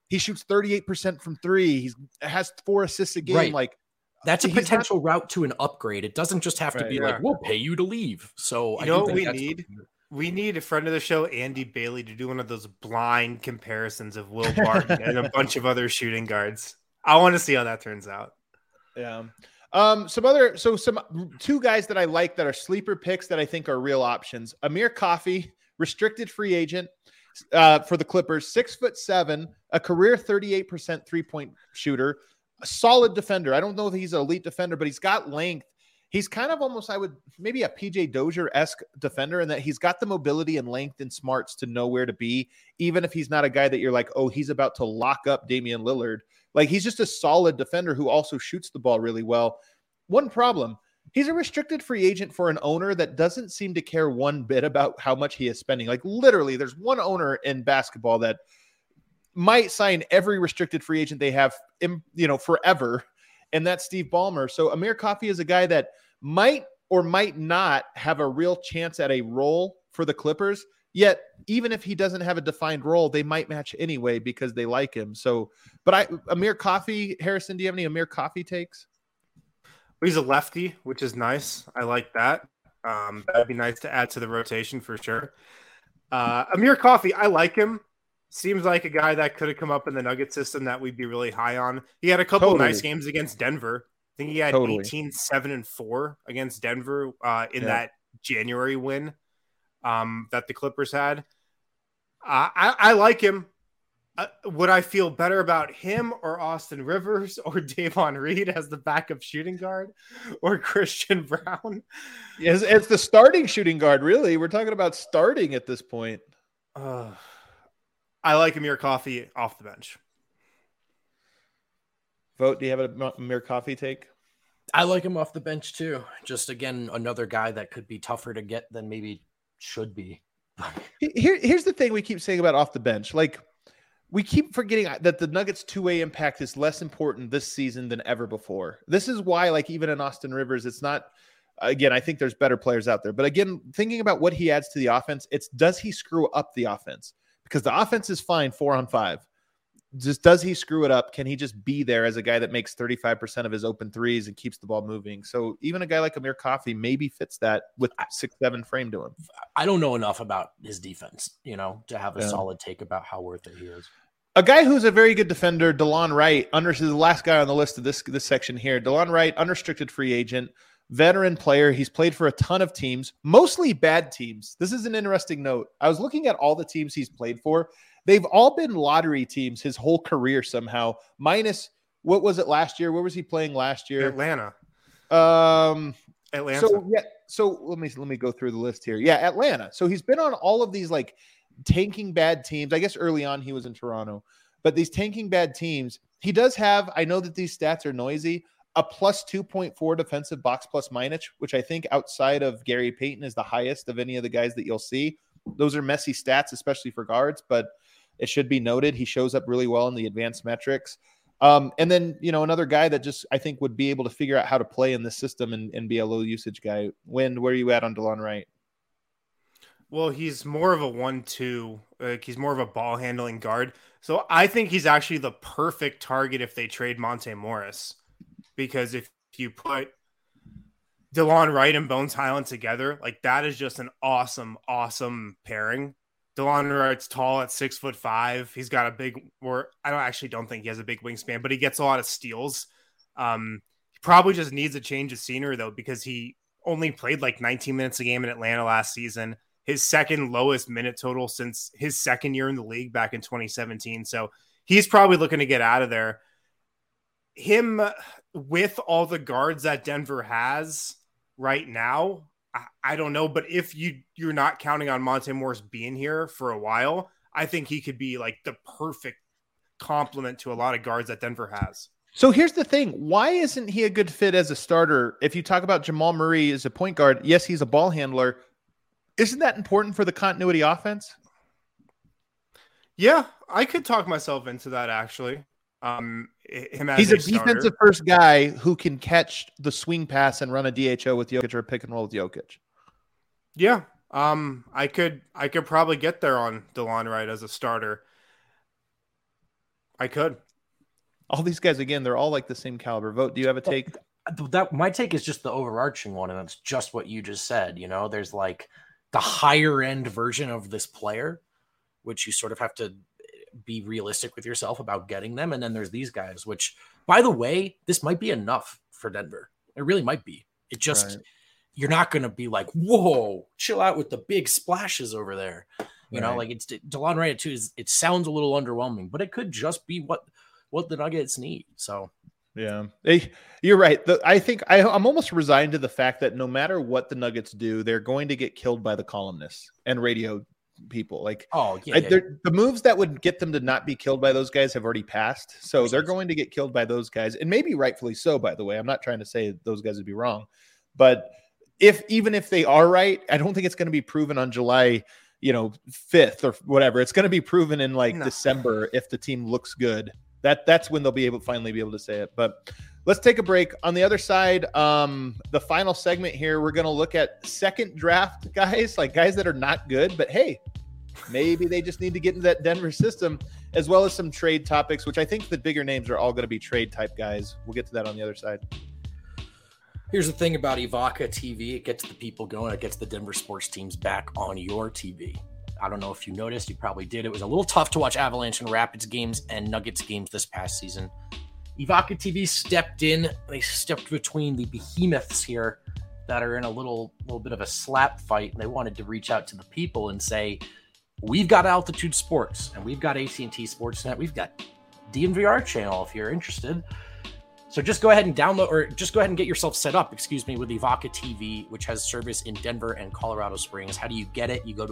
He shoots 38% from three. He has 4 assists a game. Right. Like that's a potential route to an upgrade. It doesn't just have to be like, we'll pay you to leave. So you know what we need? We need a friend of the show, Andy Bailey, to do one of those blind comparisons of Will Barton and a bunch of other shooting guards. I want to see how that turns out. Yeah. Some 2 guys that I like that are sleeper picks that I think are real options. Amir Coffey, restricted free agent for the Clippers, 6'7", a career 38% 3-point shooter, a solid defender. I don't know if he's an elite defender, but he's got length. He's kind of almost, maybe a PJ Dozier-esque defender in that he's got the mobility and length and smarts to know where to be, even if he's not a guy that you're like, oh, he's about to lock up Damian Lillard. Like, he's just a solid defender who also shoots the ball really well. One problem, he's a restricted free agent for an owner that doesn't seem to care one bit about how much he is spending. Like, literally, there's one owner in basketball that might sign every restricted free agent they have, forever, and that's Steve Ballmer. So Amir Coffey is a guy that might or might not have a real chance at a role for the Clippers. Yet, even if he doesn't have a defined role, they might match anyway because they like him. So, but Amir Coffey, Harrison, do you have any Amir Coffey takes? He's a lefty, which is nice. I like that. That'd be nice to add to the rotation for sure. Amir Coffey, I like him. Seems like a guy that could have come up in the Nugget system that we'd be really high on. He had a couple nice games against Denver. I think he had 18, 7, and 4 against Denver in that January win that the Clippers had. I like him. Would I feel better about him or Austin Rivers or Davon Reed as the backup shooting guard or Christian Brown? Yes, it's the starting shooting guard, really. We're talking about starting at this point. I like Amir Coffey off the bench. Vote, do you have a Amir Coffey take? I like him off the bench too. Just, again, another guy that could be tougher to get than maybe should be. Here's the thing we keep saying about off the bench. Like, we keep forgetting that the Nuggets' two-way impact is less important this season than ever before. This is why, like, even in Austin Rivers, it's not, again, I think there's better players out there. But again, thinking about what he adds to the offense, it's does he screw up the offense? Because the offense is fine 4-on-5. Just does he screw it up? Can he just be there as a guy that makes 35% of his open threes and keeps the ball moving? So even a guy like Amir Coffey maybe fits that with 6'7" frame to him. I don't know enough about his defense, to have a solid take about how worth it he is. A guy who's a very good defender, DeLon Wright, is the last guy on the list of this section here. DeLon Wright, unrestricted free agent, veteran player. He's played for a ton of teams, mostly bad teams. This is an interesting note. I was looking at all the teams he's played for. They've all been lottery teams his whole career somehow, minus, what was it last year? Where was he playing last year? Atlanta. So let me go through the list here. Yeah, Atlanta. So he's been on all of these like tanking bad teams. I guess early on he was in Toronto, but these tanking bad teams, he does have, I know that these stats are noisy, a plus 2.4 defensive box plus minus, which I think outside of Gary Payton is the highest of any of the guys that you'll see. Those are messy stats, especially for guards, but it should be noted he shows up really well in the advanced metrics. And then, another guy that just I think would be able to figure out how to play in this system and be a low usage guy. Where are you at on DeLon Wright? Well, he's more of a 1-2. He's more of a ball handling guard. So I think he's actually the perfect target if they trade Monte Morris. Because if you put DeLon Wright and Bones Highland together, like that is just an awesome, awesome pairing. DeLon Wright's tall at 6'5". He's got a big, don't think he has a big wingspan, but he gets a lot of steals. He probably just needs a change of scenery though, because he only played like 19 minutes a game in Atlanta last season. His second lowest minute total since his second year in the league back in 2017. So he's probably looking to get out of there. Him with all the guards that Denver has right now, I don't know, but if you're not counting on Monte Morris being here for a while, I think he could be like the perfect complement to a lot of guards that Denver has. So here's the thing. Why isn't he a good fit as a starter? If you talk about Jamal Murray as a point guard, yes, he's a ball handler. Isn't that important for the continuity offense? Yeah, I could talk myself into that actually. He's a defensive first guy who can catch the swing pass and run a DHO with Jokic or a pick and roll with Jokic. Yeah. I could probably get there on DeLon Wright as a starter. I could. All these guys, again, they're all like the same caliber. Vote. Do you have a take? My take is just the overarching one, and that's just what you just said. You know, there's like the higher end version of this player, which you sort of have to be realistic with yourself about getting them. And then there's these guys, which, by the way, this might be enough for Denver. It really might be. It just, you're not going to be like, whoa, chill out with the big splashes over there. You know, like it's DeLon Wright too. It sounds a little underwhelming, but it could just be what the Nuggets need. So, yeah, you're right. I think I'm almost resigned to the fact that no matter what the Nuggets do, they're going to get killed by the columnists and radio people. Like, the moves that would get them to not be killed by those guys have already passed. So they're going to get killed by those guys, and maybe rightfully so, by the way. I'm not trying to say those guys would be wrong, but even if they are right, I don't think it's going to be proven on July 5th or whatever. It's going to be proven in December if the team looks good. That's when they'll finally be able to say it. But let's take a break. On the other side, the final segment here, we're going to look at second draft guys, like guys that are not good, but hey, maybe they just need to get into that Denver system, as well as some trade topics, which I think the bigger names are all going to be trade type guys. We'll get to that on the other side. Here's the thing about Evoca TV. It gets the people going. It gets the Denver sports teams back on your TV. I don't know if you noticed. You probably did. It was a little tough to watch Avalanche and Rapids games and Nuggets games this past season. Evoca TV stepped in. They stepped between the behemoths here that are in a little bit of a slap fight, and they wanted to reach out to the people and say, we've got Altitude Sports, and we've got AT&T Sportsnet. We've got DNVR channel if you're interested. So just go ahead and download, or just go ahead and get yourself set up, with Evoca TV, which has service in Denver and Colorado Springs. How do you get it? You go to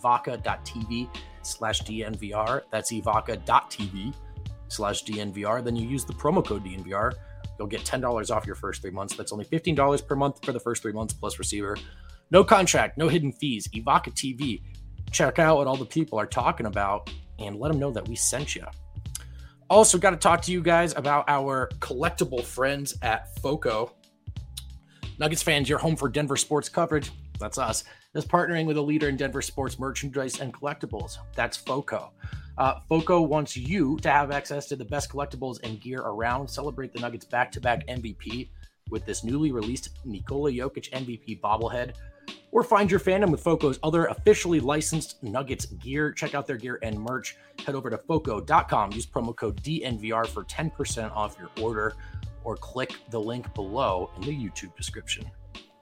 evoca.tv/DNVR. That's evoca.tv/DNVR. Then you use the promo code DNVR. You'll get $10 off your first 3 months. That's only $15 per month for the first 3 months plus receiver. No contract, no hidden fees. Evoca TV. Check out what all the people are talking about and let them know that we sent you. Also, got to talk to you guys about our collectible friends at FOCO. Nuggets fans, your home for Denver sports coverage, that's us, is partnering with a leader in Denver sports merchandise and collectibles. That's FOCO. FOCO wants you to have access to the best collectibles and gear around. Celebrate the Nuggets back-to-back MVP with this newly released Nikola Jokic MVP bobblehead. Or find your fandom with FOCO's other officially licensed Nuggets gear. Check out their gear and merch. Head over to FOCO.com. Use promo code DNVR for 10% off your order, or click the link below in the YouTube description.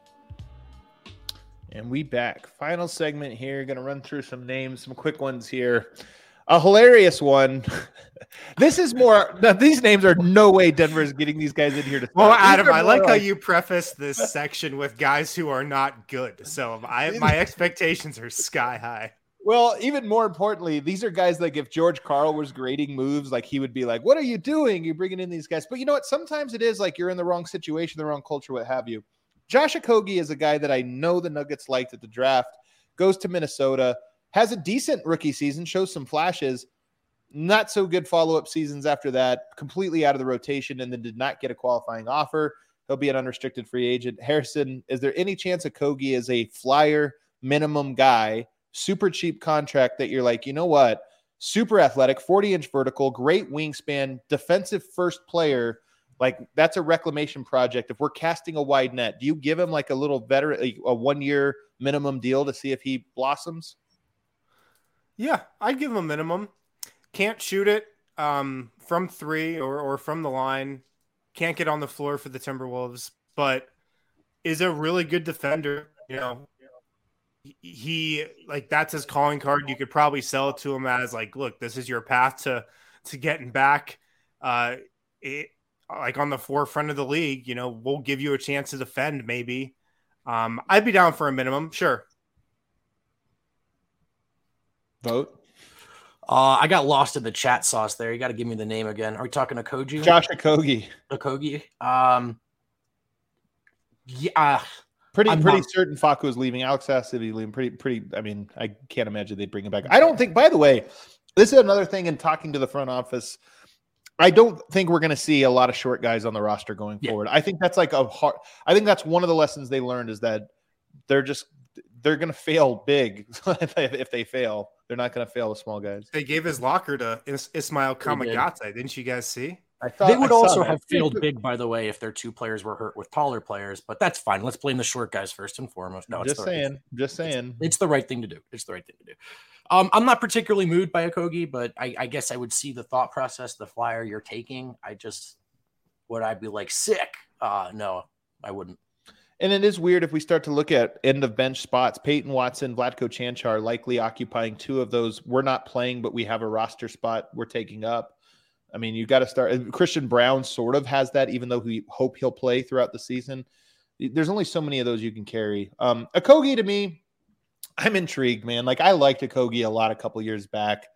And we back. Final segment here. Going to run through some names, some quick ones here. A hilarious one. This is more. Now, these names are no way Denver is getting these guys in here to start. Well, Adam, I like how you preface this section with guys who are not good. So my expectations are sky high. Well, even more importantly, these are guys like if George Karl was grading moves, like he would be like, "What are you doing? You're bringing in these guys." But you know what? Sometimes it is like you're in the wrong situation, the wrong culture, what have you. Josh Okogie is a guy that I know the Nuggets liked at the draft. Goes to Minnesota. Has a decent rookie season, shows some flashes, not so good follow-up seasons after that, completely out of the rotation, and then did not get a qualifying offer. He'll be an unrestricted free agent. Harrison, is there any chance Okogie is a flyer minimum guy, super cheap contract that you're like, you know what, super athletic, 40-inch vertical, great wingspan, defensive first player, like that's a reclamation project. If we're casting a wide net, do you give him like a little veteran, a 1-year minimum deal to see if he blossoms? Yeah, I'd give him a minimum. Can't shoot it from three or from the line. Can't get on the floor for the Timberwolves, but is a really good defender. You know, he like that's his calling card. You could probably sell it to him as like, look, this is your path to getting back. Like on the forefront of the league. You know, we'll give you a chance to defend. Maybe I'd be down for a minimum. Sure. Vote. I got lost in the chat sauce there. You got to give me the name again. Are we talking Okogie? Josh Okogie. Okogie. Yeah. Pretty certain Facu is leaving. Alex has to be leaving. Pretty. I mean, I can't imagine they'd bring him back. I don't think. By the way, this is another thing in talking to the front office. I don't think we're going to see a lot of short guys on the roster going forward. I think that's like I think that's one of the lessons they learned is that they're they're going to fail big. If they fail, they're not going to fail the small guys. They gave his locker to Ismail Kamagate. Didn't you guys see? They would also have failed big, by the way, if their two players were hurt with taller players, but that's fine. Let's blame the short guys first and foremost. No, just saying. It's the right thing to do. I'm not particularly moved by Okogie, but I guess I would see the thought process, the flyer you're taking. Would I be like sick? No, I wouldn't. And it is weird if we start to look at end of bench spots. Peyton Watson, Vlatko Chanchar likely occupying two of those. We're not playing, but we have a roster spot we're taking up. I mean, you got to start. Christian Brown sort of has that, even though we hope he'll play throughout the season. There's only so many of those you can carry. Okogie, to me, I'm intrigued, man. Like, I liked Okogie a lot a couple years back.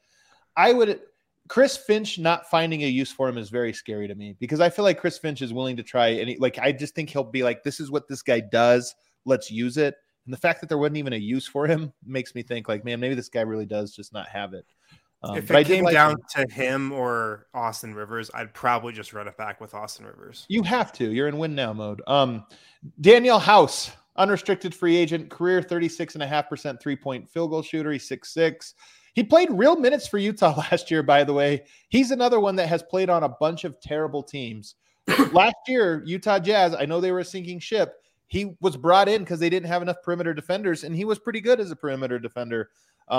Chris Finch not finding a use for him is very scary to me, because I feel like Chris Finch is willing to try. And I just think he'll be like, this is what this guy does. Let's use it. And the fact that there wasn't even a use for him makes me think like, man, maybe this guy really does just not have it. If it came down to him or Austin Rivers, I'd probably just run it back with Austin Rivers. You have to. You're in win now mode. Daniel House, unrestricted free agent, career 36.5% three-point field goal shooter. He's 6'6". He played real minutes for Utah last year, by the way. He's another one that has played on a bunch of terrible teams. Last year, Utah Jazz, I know they were a sinking ship. He was brought in because they didn't have enough perimeter defenders, and he was pretty good as a perimeter defender.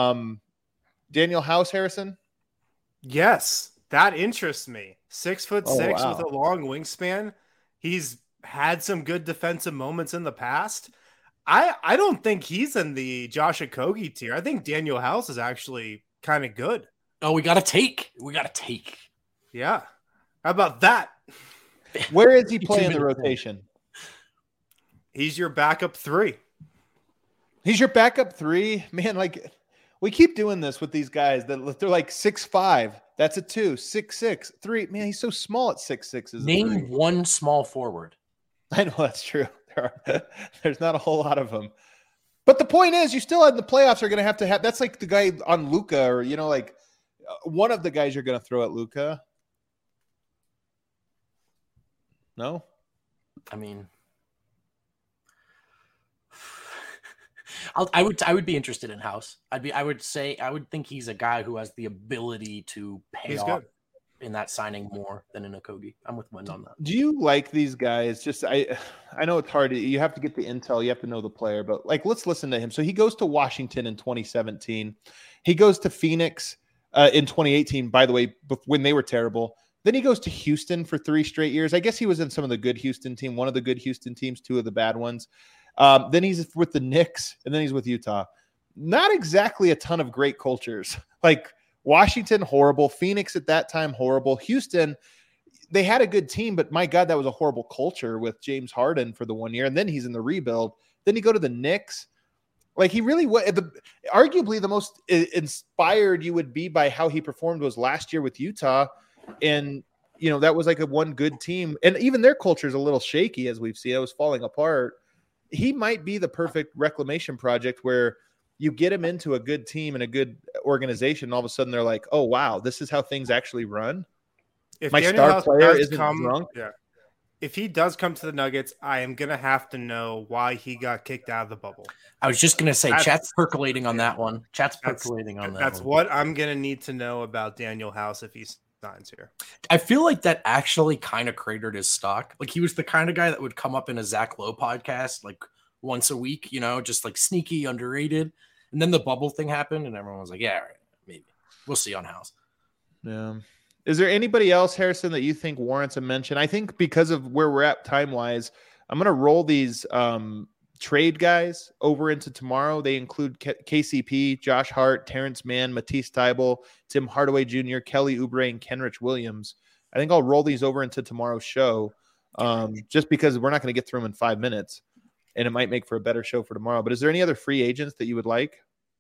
Daniel House, Harrison? Yes, that interests me. 6'6" wow. with a long wingspan. He's had some good defensive moments in the past. I don't think he's in the Josh Okogie tier. I think Daniel House is actually kind of good. Oh, we got to take. Yeah. How about that? Where is he playing in the rotation? He's your backup three. He's your backup three? Man, like, we keep doing this with these guys that they're like 6'5". That's a 2, 6'6", 3. Man, he's so small at 6'6". Name one small forward. I know that's true. There's not a whole lot of them. But the point is, you still in the playoffs are going to have. That's like the guy on Luka, or like one of the guys you're going to throw at Luka. No, I mean, I would be interested in House. I would think he's a guy who has the ability to pay off in that signing more than in Okogie. I'm with Wend on that. Do you like these guys? Just I know it's hard. You have to get the intel. You have to know the player. But like, let's listen to him. So he goes to Washington in 2017. He goes to Phoenix in 2018. By the way, when they were terrible. Then he goes to Houston for 3 straight years. I guess he was in some of the good Houston team, one of the good Houston teams, 2 of the bad ones. Then he's with the Knicks, and then he's with Utah. Not exactly a ton of great cultures. Like Washington, horrible. Phoenix at that time, horrible. Houston, they had a good team, but my God, that was a horrible culture with James Harden for the 1 year. And then he's in the rebuild. Then you go to the Knicks. Like, he really was arguably the most inspired you would be by how he performed was last year with Utah. And, that was like a one good team. And even their culture is a little shaky, as we've seen. It was falling apart. He might be the perfect reclamation project where you get him into a good team and a good organization. And all of a sudden they're like, oh, wow, this is how things actually run. If my Daniel star House player isn't drunk. Yeah. If he does come to the Nuggets, I am going to have to know why he got kicked out of the bubble. I was just going to say, chat's percolating on that one. That's what I'm going to need to know about Daniel House if he's signs here. I feel like that actually kind of cratered his stock. Like, he was the kind of guy that would come up in a Zach Lowe podcast like once a week, just like sneaky, underrated. And then the bubble thing happened and everyone was like, yeah, all right, maybe. We'll see on House. Yeah. Is there anybody else, Harrison, that you think warrants a mention? I think because of where we're at time-wise, I'm going to roll these trade guys over into tomorrow. They include KCP, Josh Hart, Terrence Mann, Matisse Thybulle, Tim Hardaway Jr., Kelly Oubre, and Kenrich Williams. I think I'll roll these over into tomorrow's show just because we're not going to get through them in 5 minutes, and it might make for a better show for tomorrow. But is there any other free agents that you would like?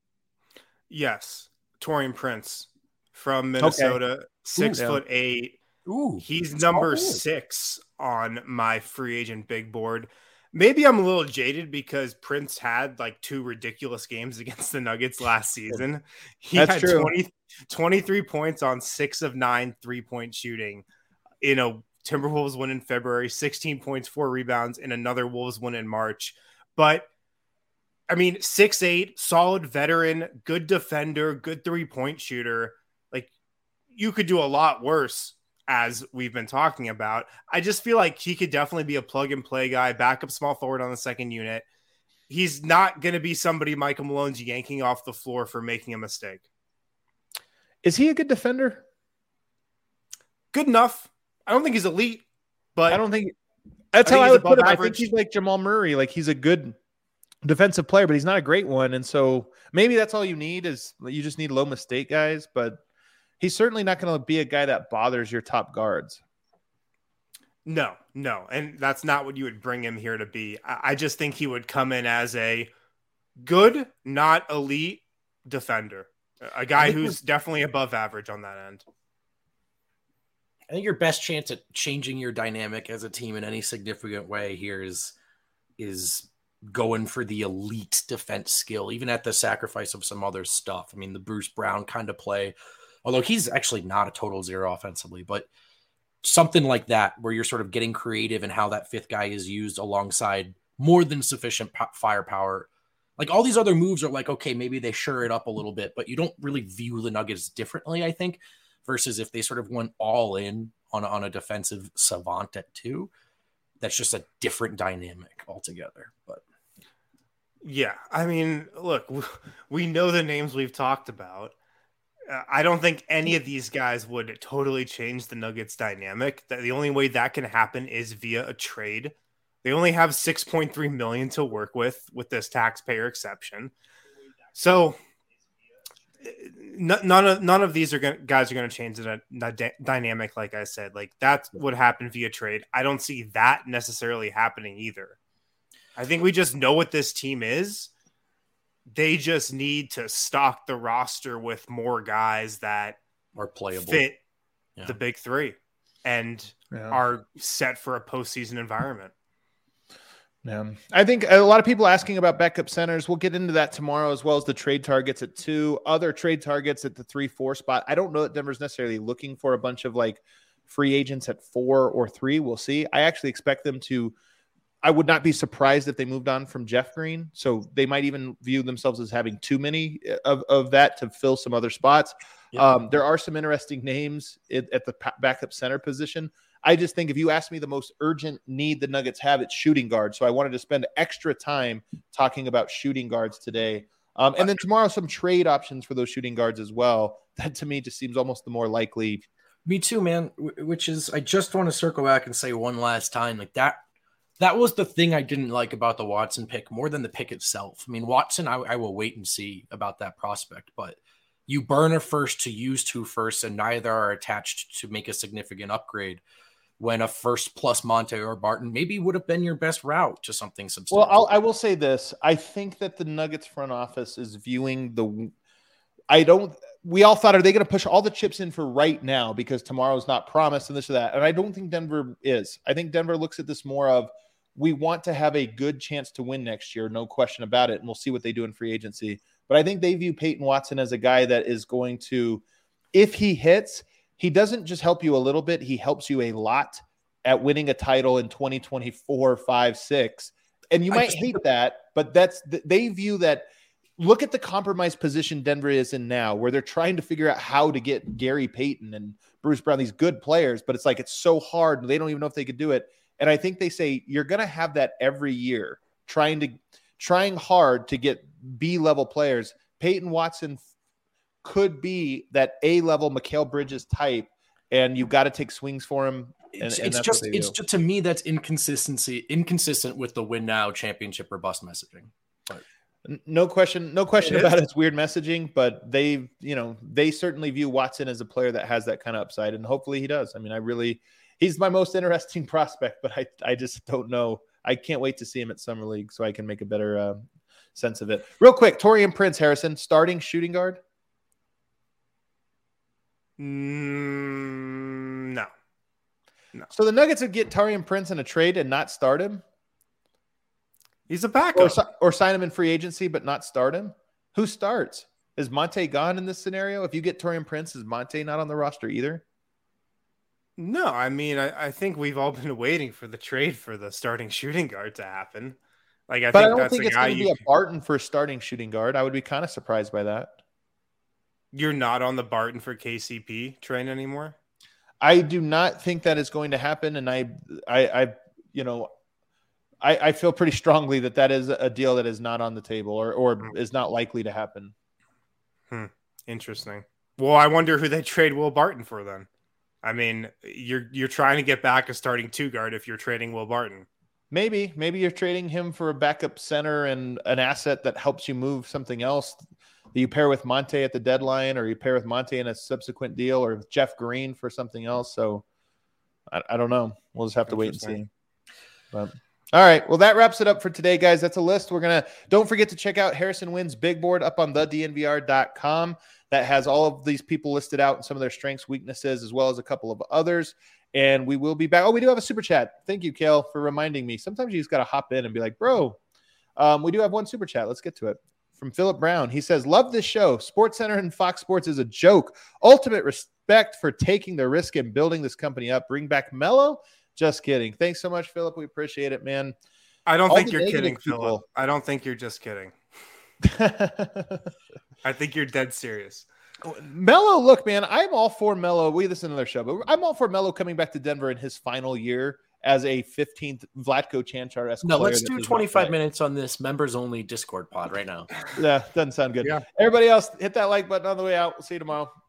Yes. Taurean Prince from Minnesota, 6'8". Ooh, he's number 6 on my free agent big board. Maybe I'm a little jaded because Prince had like 2 ridiculous games against the Nuggets last season. He had 23 points on 6 of 9 3-point shooting in a Timberwolves win in February, 16 points, 4 rebounds in another Wolves win in March. But I mean, 6'8", solid veteran, good defender, good 3-point shooter. Like, you could do a lot worse, as we've been talking about. I just feel like he could definitely be a plug-and-play guy, backup small forward on the second unit. He's not going to be somebody Michael Malone's yanking off the floor for making a mistake. Is he a good defender? Good enough. I don't think he's elite, but I don't think that's how think I he's would put him. above I think average. he's like Jamal Murray. Like, he's a good defensive player, but he's not a great one. And so maybe that's all you need is you just need low mistake guys, but he's certainly not going to be a guy that bothers your top guards. No. And that's not what you would bring him here to be. I just think he would come in as a good, not elite defender, a guy who's definitely above average on that end. I think your best chance at changing your dynamic as a team in any significant way here is going for the elite defense skill, even at the sacrifice of some other stuff. I mean, the Bruce Brown kind of play, although he's actually not a total zero offensively, but something like that, where you're sort of getting creative in how that fifth guy is used alongside more than sufficient firepower. Like, all these other moves are like, okay, maybe they sure it up a little bit, but you don't really view the Nuggets differently, I think, versus if they sort of went all in on a defensive savant at 2. That's just a different dynamic altogether. But yeah, I mean, look, we know the names we've talked about. I don't think any of these guys would totally change the Nuggets dynamic. The only way that can happen is via a trade. They only have $6.3 million to work with this taxpayer exception. So none of these guys are going to change the dynamic. Like I said, like, that would happen via trade. I don't see that necessarily happening either. I think we just know what this team is. They just need to stock the roster with more guys that are playable, fit the big three, and are set for a postseason environment. Yeah, I think a lot of people asking about backup centers. We'll get into that tomorrow, as well as the trade targets at 2, other trade targets at the 3-4 spot. I don't know that Denver's necessarily looking for a bunch of like free agents at 4 or 3. We'll see. I actually expect them to. I would not be surprised if they moved on from Jeff Green. So they might even view themselves as having too many of that to fill some other spots. Yeah. There are some interesting names at the backup center position. I just think if you ask me the most urgent need the Nuggets have, it's shooting guard. So I wanted to spend extra time talking about shooting guards today. And then tomorrow, some trade options for those shooting guards as well. That to me just seems almost the more likely. Me too, man, which is, I just want to circle back and say one last time, like that was the thing I didn't like about the Watson pick more than the pick itself. I mean, Watson, I will wait and see about that prospect, but you burn a first to use 2 firsts, and neither are attached to make a significant upgrade, when a first plus Monte or Barton maybe would have been your best route to something substantial. Well, I will say this. I think that the Nuggets front office is viewing we all thought, are they going to push all the chips in for right now because tomorrow's not promised and this or that? And I don't think Denver is. I think Denver looks at this more of, we want to have a good chance to win next year, no question about it, and we'll see what they do in free agency. But I think they view Peyton Watson as a guy that is going to, if he hits, he doesn't just help you a little bit, he helps you a lot at winning a title in 2024, 5, 6. And you might hate that, but they view that. Look at the compromised position Denver is in now, where they're trying to figure out how to get Gary Payton and Bruce Brown, these good players, but it's like, it's so hard. They don't even know if they could do it. And I think they say you're going to have that every year, trying hard to get B-level players. Peyton Watson could be that A-level Mikal Bridges type, and you've got to take swings for him. It's just to me, that's inconsistent with the win now, championship or bust messaging. But no question about it. It's weird messaging, but they certainly view Watson as a player that has that kind of upside, and hopefully he does. I mean, he's my most interesting prospect, but I just don't know. I can't wait to see him at Summer League so I can make a better sense of it. Real quick, Taurean Prince, Harrison, starting shooting guard? No. So the Nuggets would get Taurean Prince in a trade and not start him? He's a backup. Or sign him in free agency but not start him? Who starts? Is Monte gone in this scenario? If you get Taurean Prince, is Monte not on the roster either? No, I mean, I think we've all been waiting for the trade for the starting shooting guard to happen. Like, I But I think don't that's think the it's guy going to be a Barton for starting shooting guard. I would be kind of surprised by that. You're not on the Barton for KCP train anymore? I do not think that is going to happen. And I feel pretty strongly that is a deal that is not on the table or is not likely to happen. Interesting. Well, I wonder who they trade Will Barton for then. I mean, you're trying to get back a starting 2 guard if you're trading Will Barton. Maybe you're trading him for a backup center and an asset that helps you move something else that you pair with Monte at the deadline, or you pair with Monte in a subsequent deal, or Jeff Green for something else. So I don't know. We'll just have to wait and see. But all right. Well, that wraps it up for today, guys. That's a list. Don't forget to check out Harrison Wynn's big board up on thednvr.com. That has all of these people listed out and some of their strengths, weaknesses, as well as a couple of others. And we will be back. Oh, we do have a super chat. Thank you, Kale, for reminding me. Sometimes you just got to hop in and be like, bro, we do have one super chat. Let's get to it. From Philip Brown. He says, love this show. SportsCenter and Fox Sports is a joke. Ultimate respect for taking the risk and building this company up. Bring back Melo. Just kidding. Thanks so much, Philip. We appreciate it, man. I don't think you're kidding, Philip. I don't think you're just kidding. I think you're dead serious. Melo, look, man, I'm all for Melo. This is another show, but I'm all for Melo coming back to Denver in his final year as a 15th Vlatko Cancar-esque player. No, let's do 25 minutes on this members-only Discord pod right now. Yeah, doesn't sound good. Yeah. Everybody else, hit that like button on the way out. We'll see you tomorrow.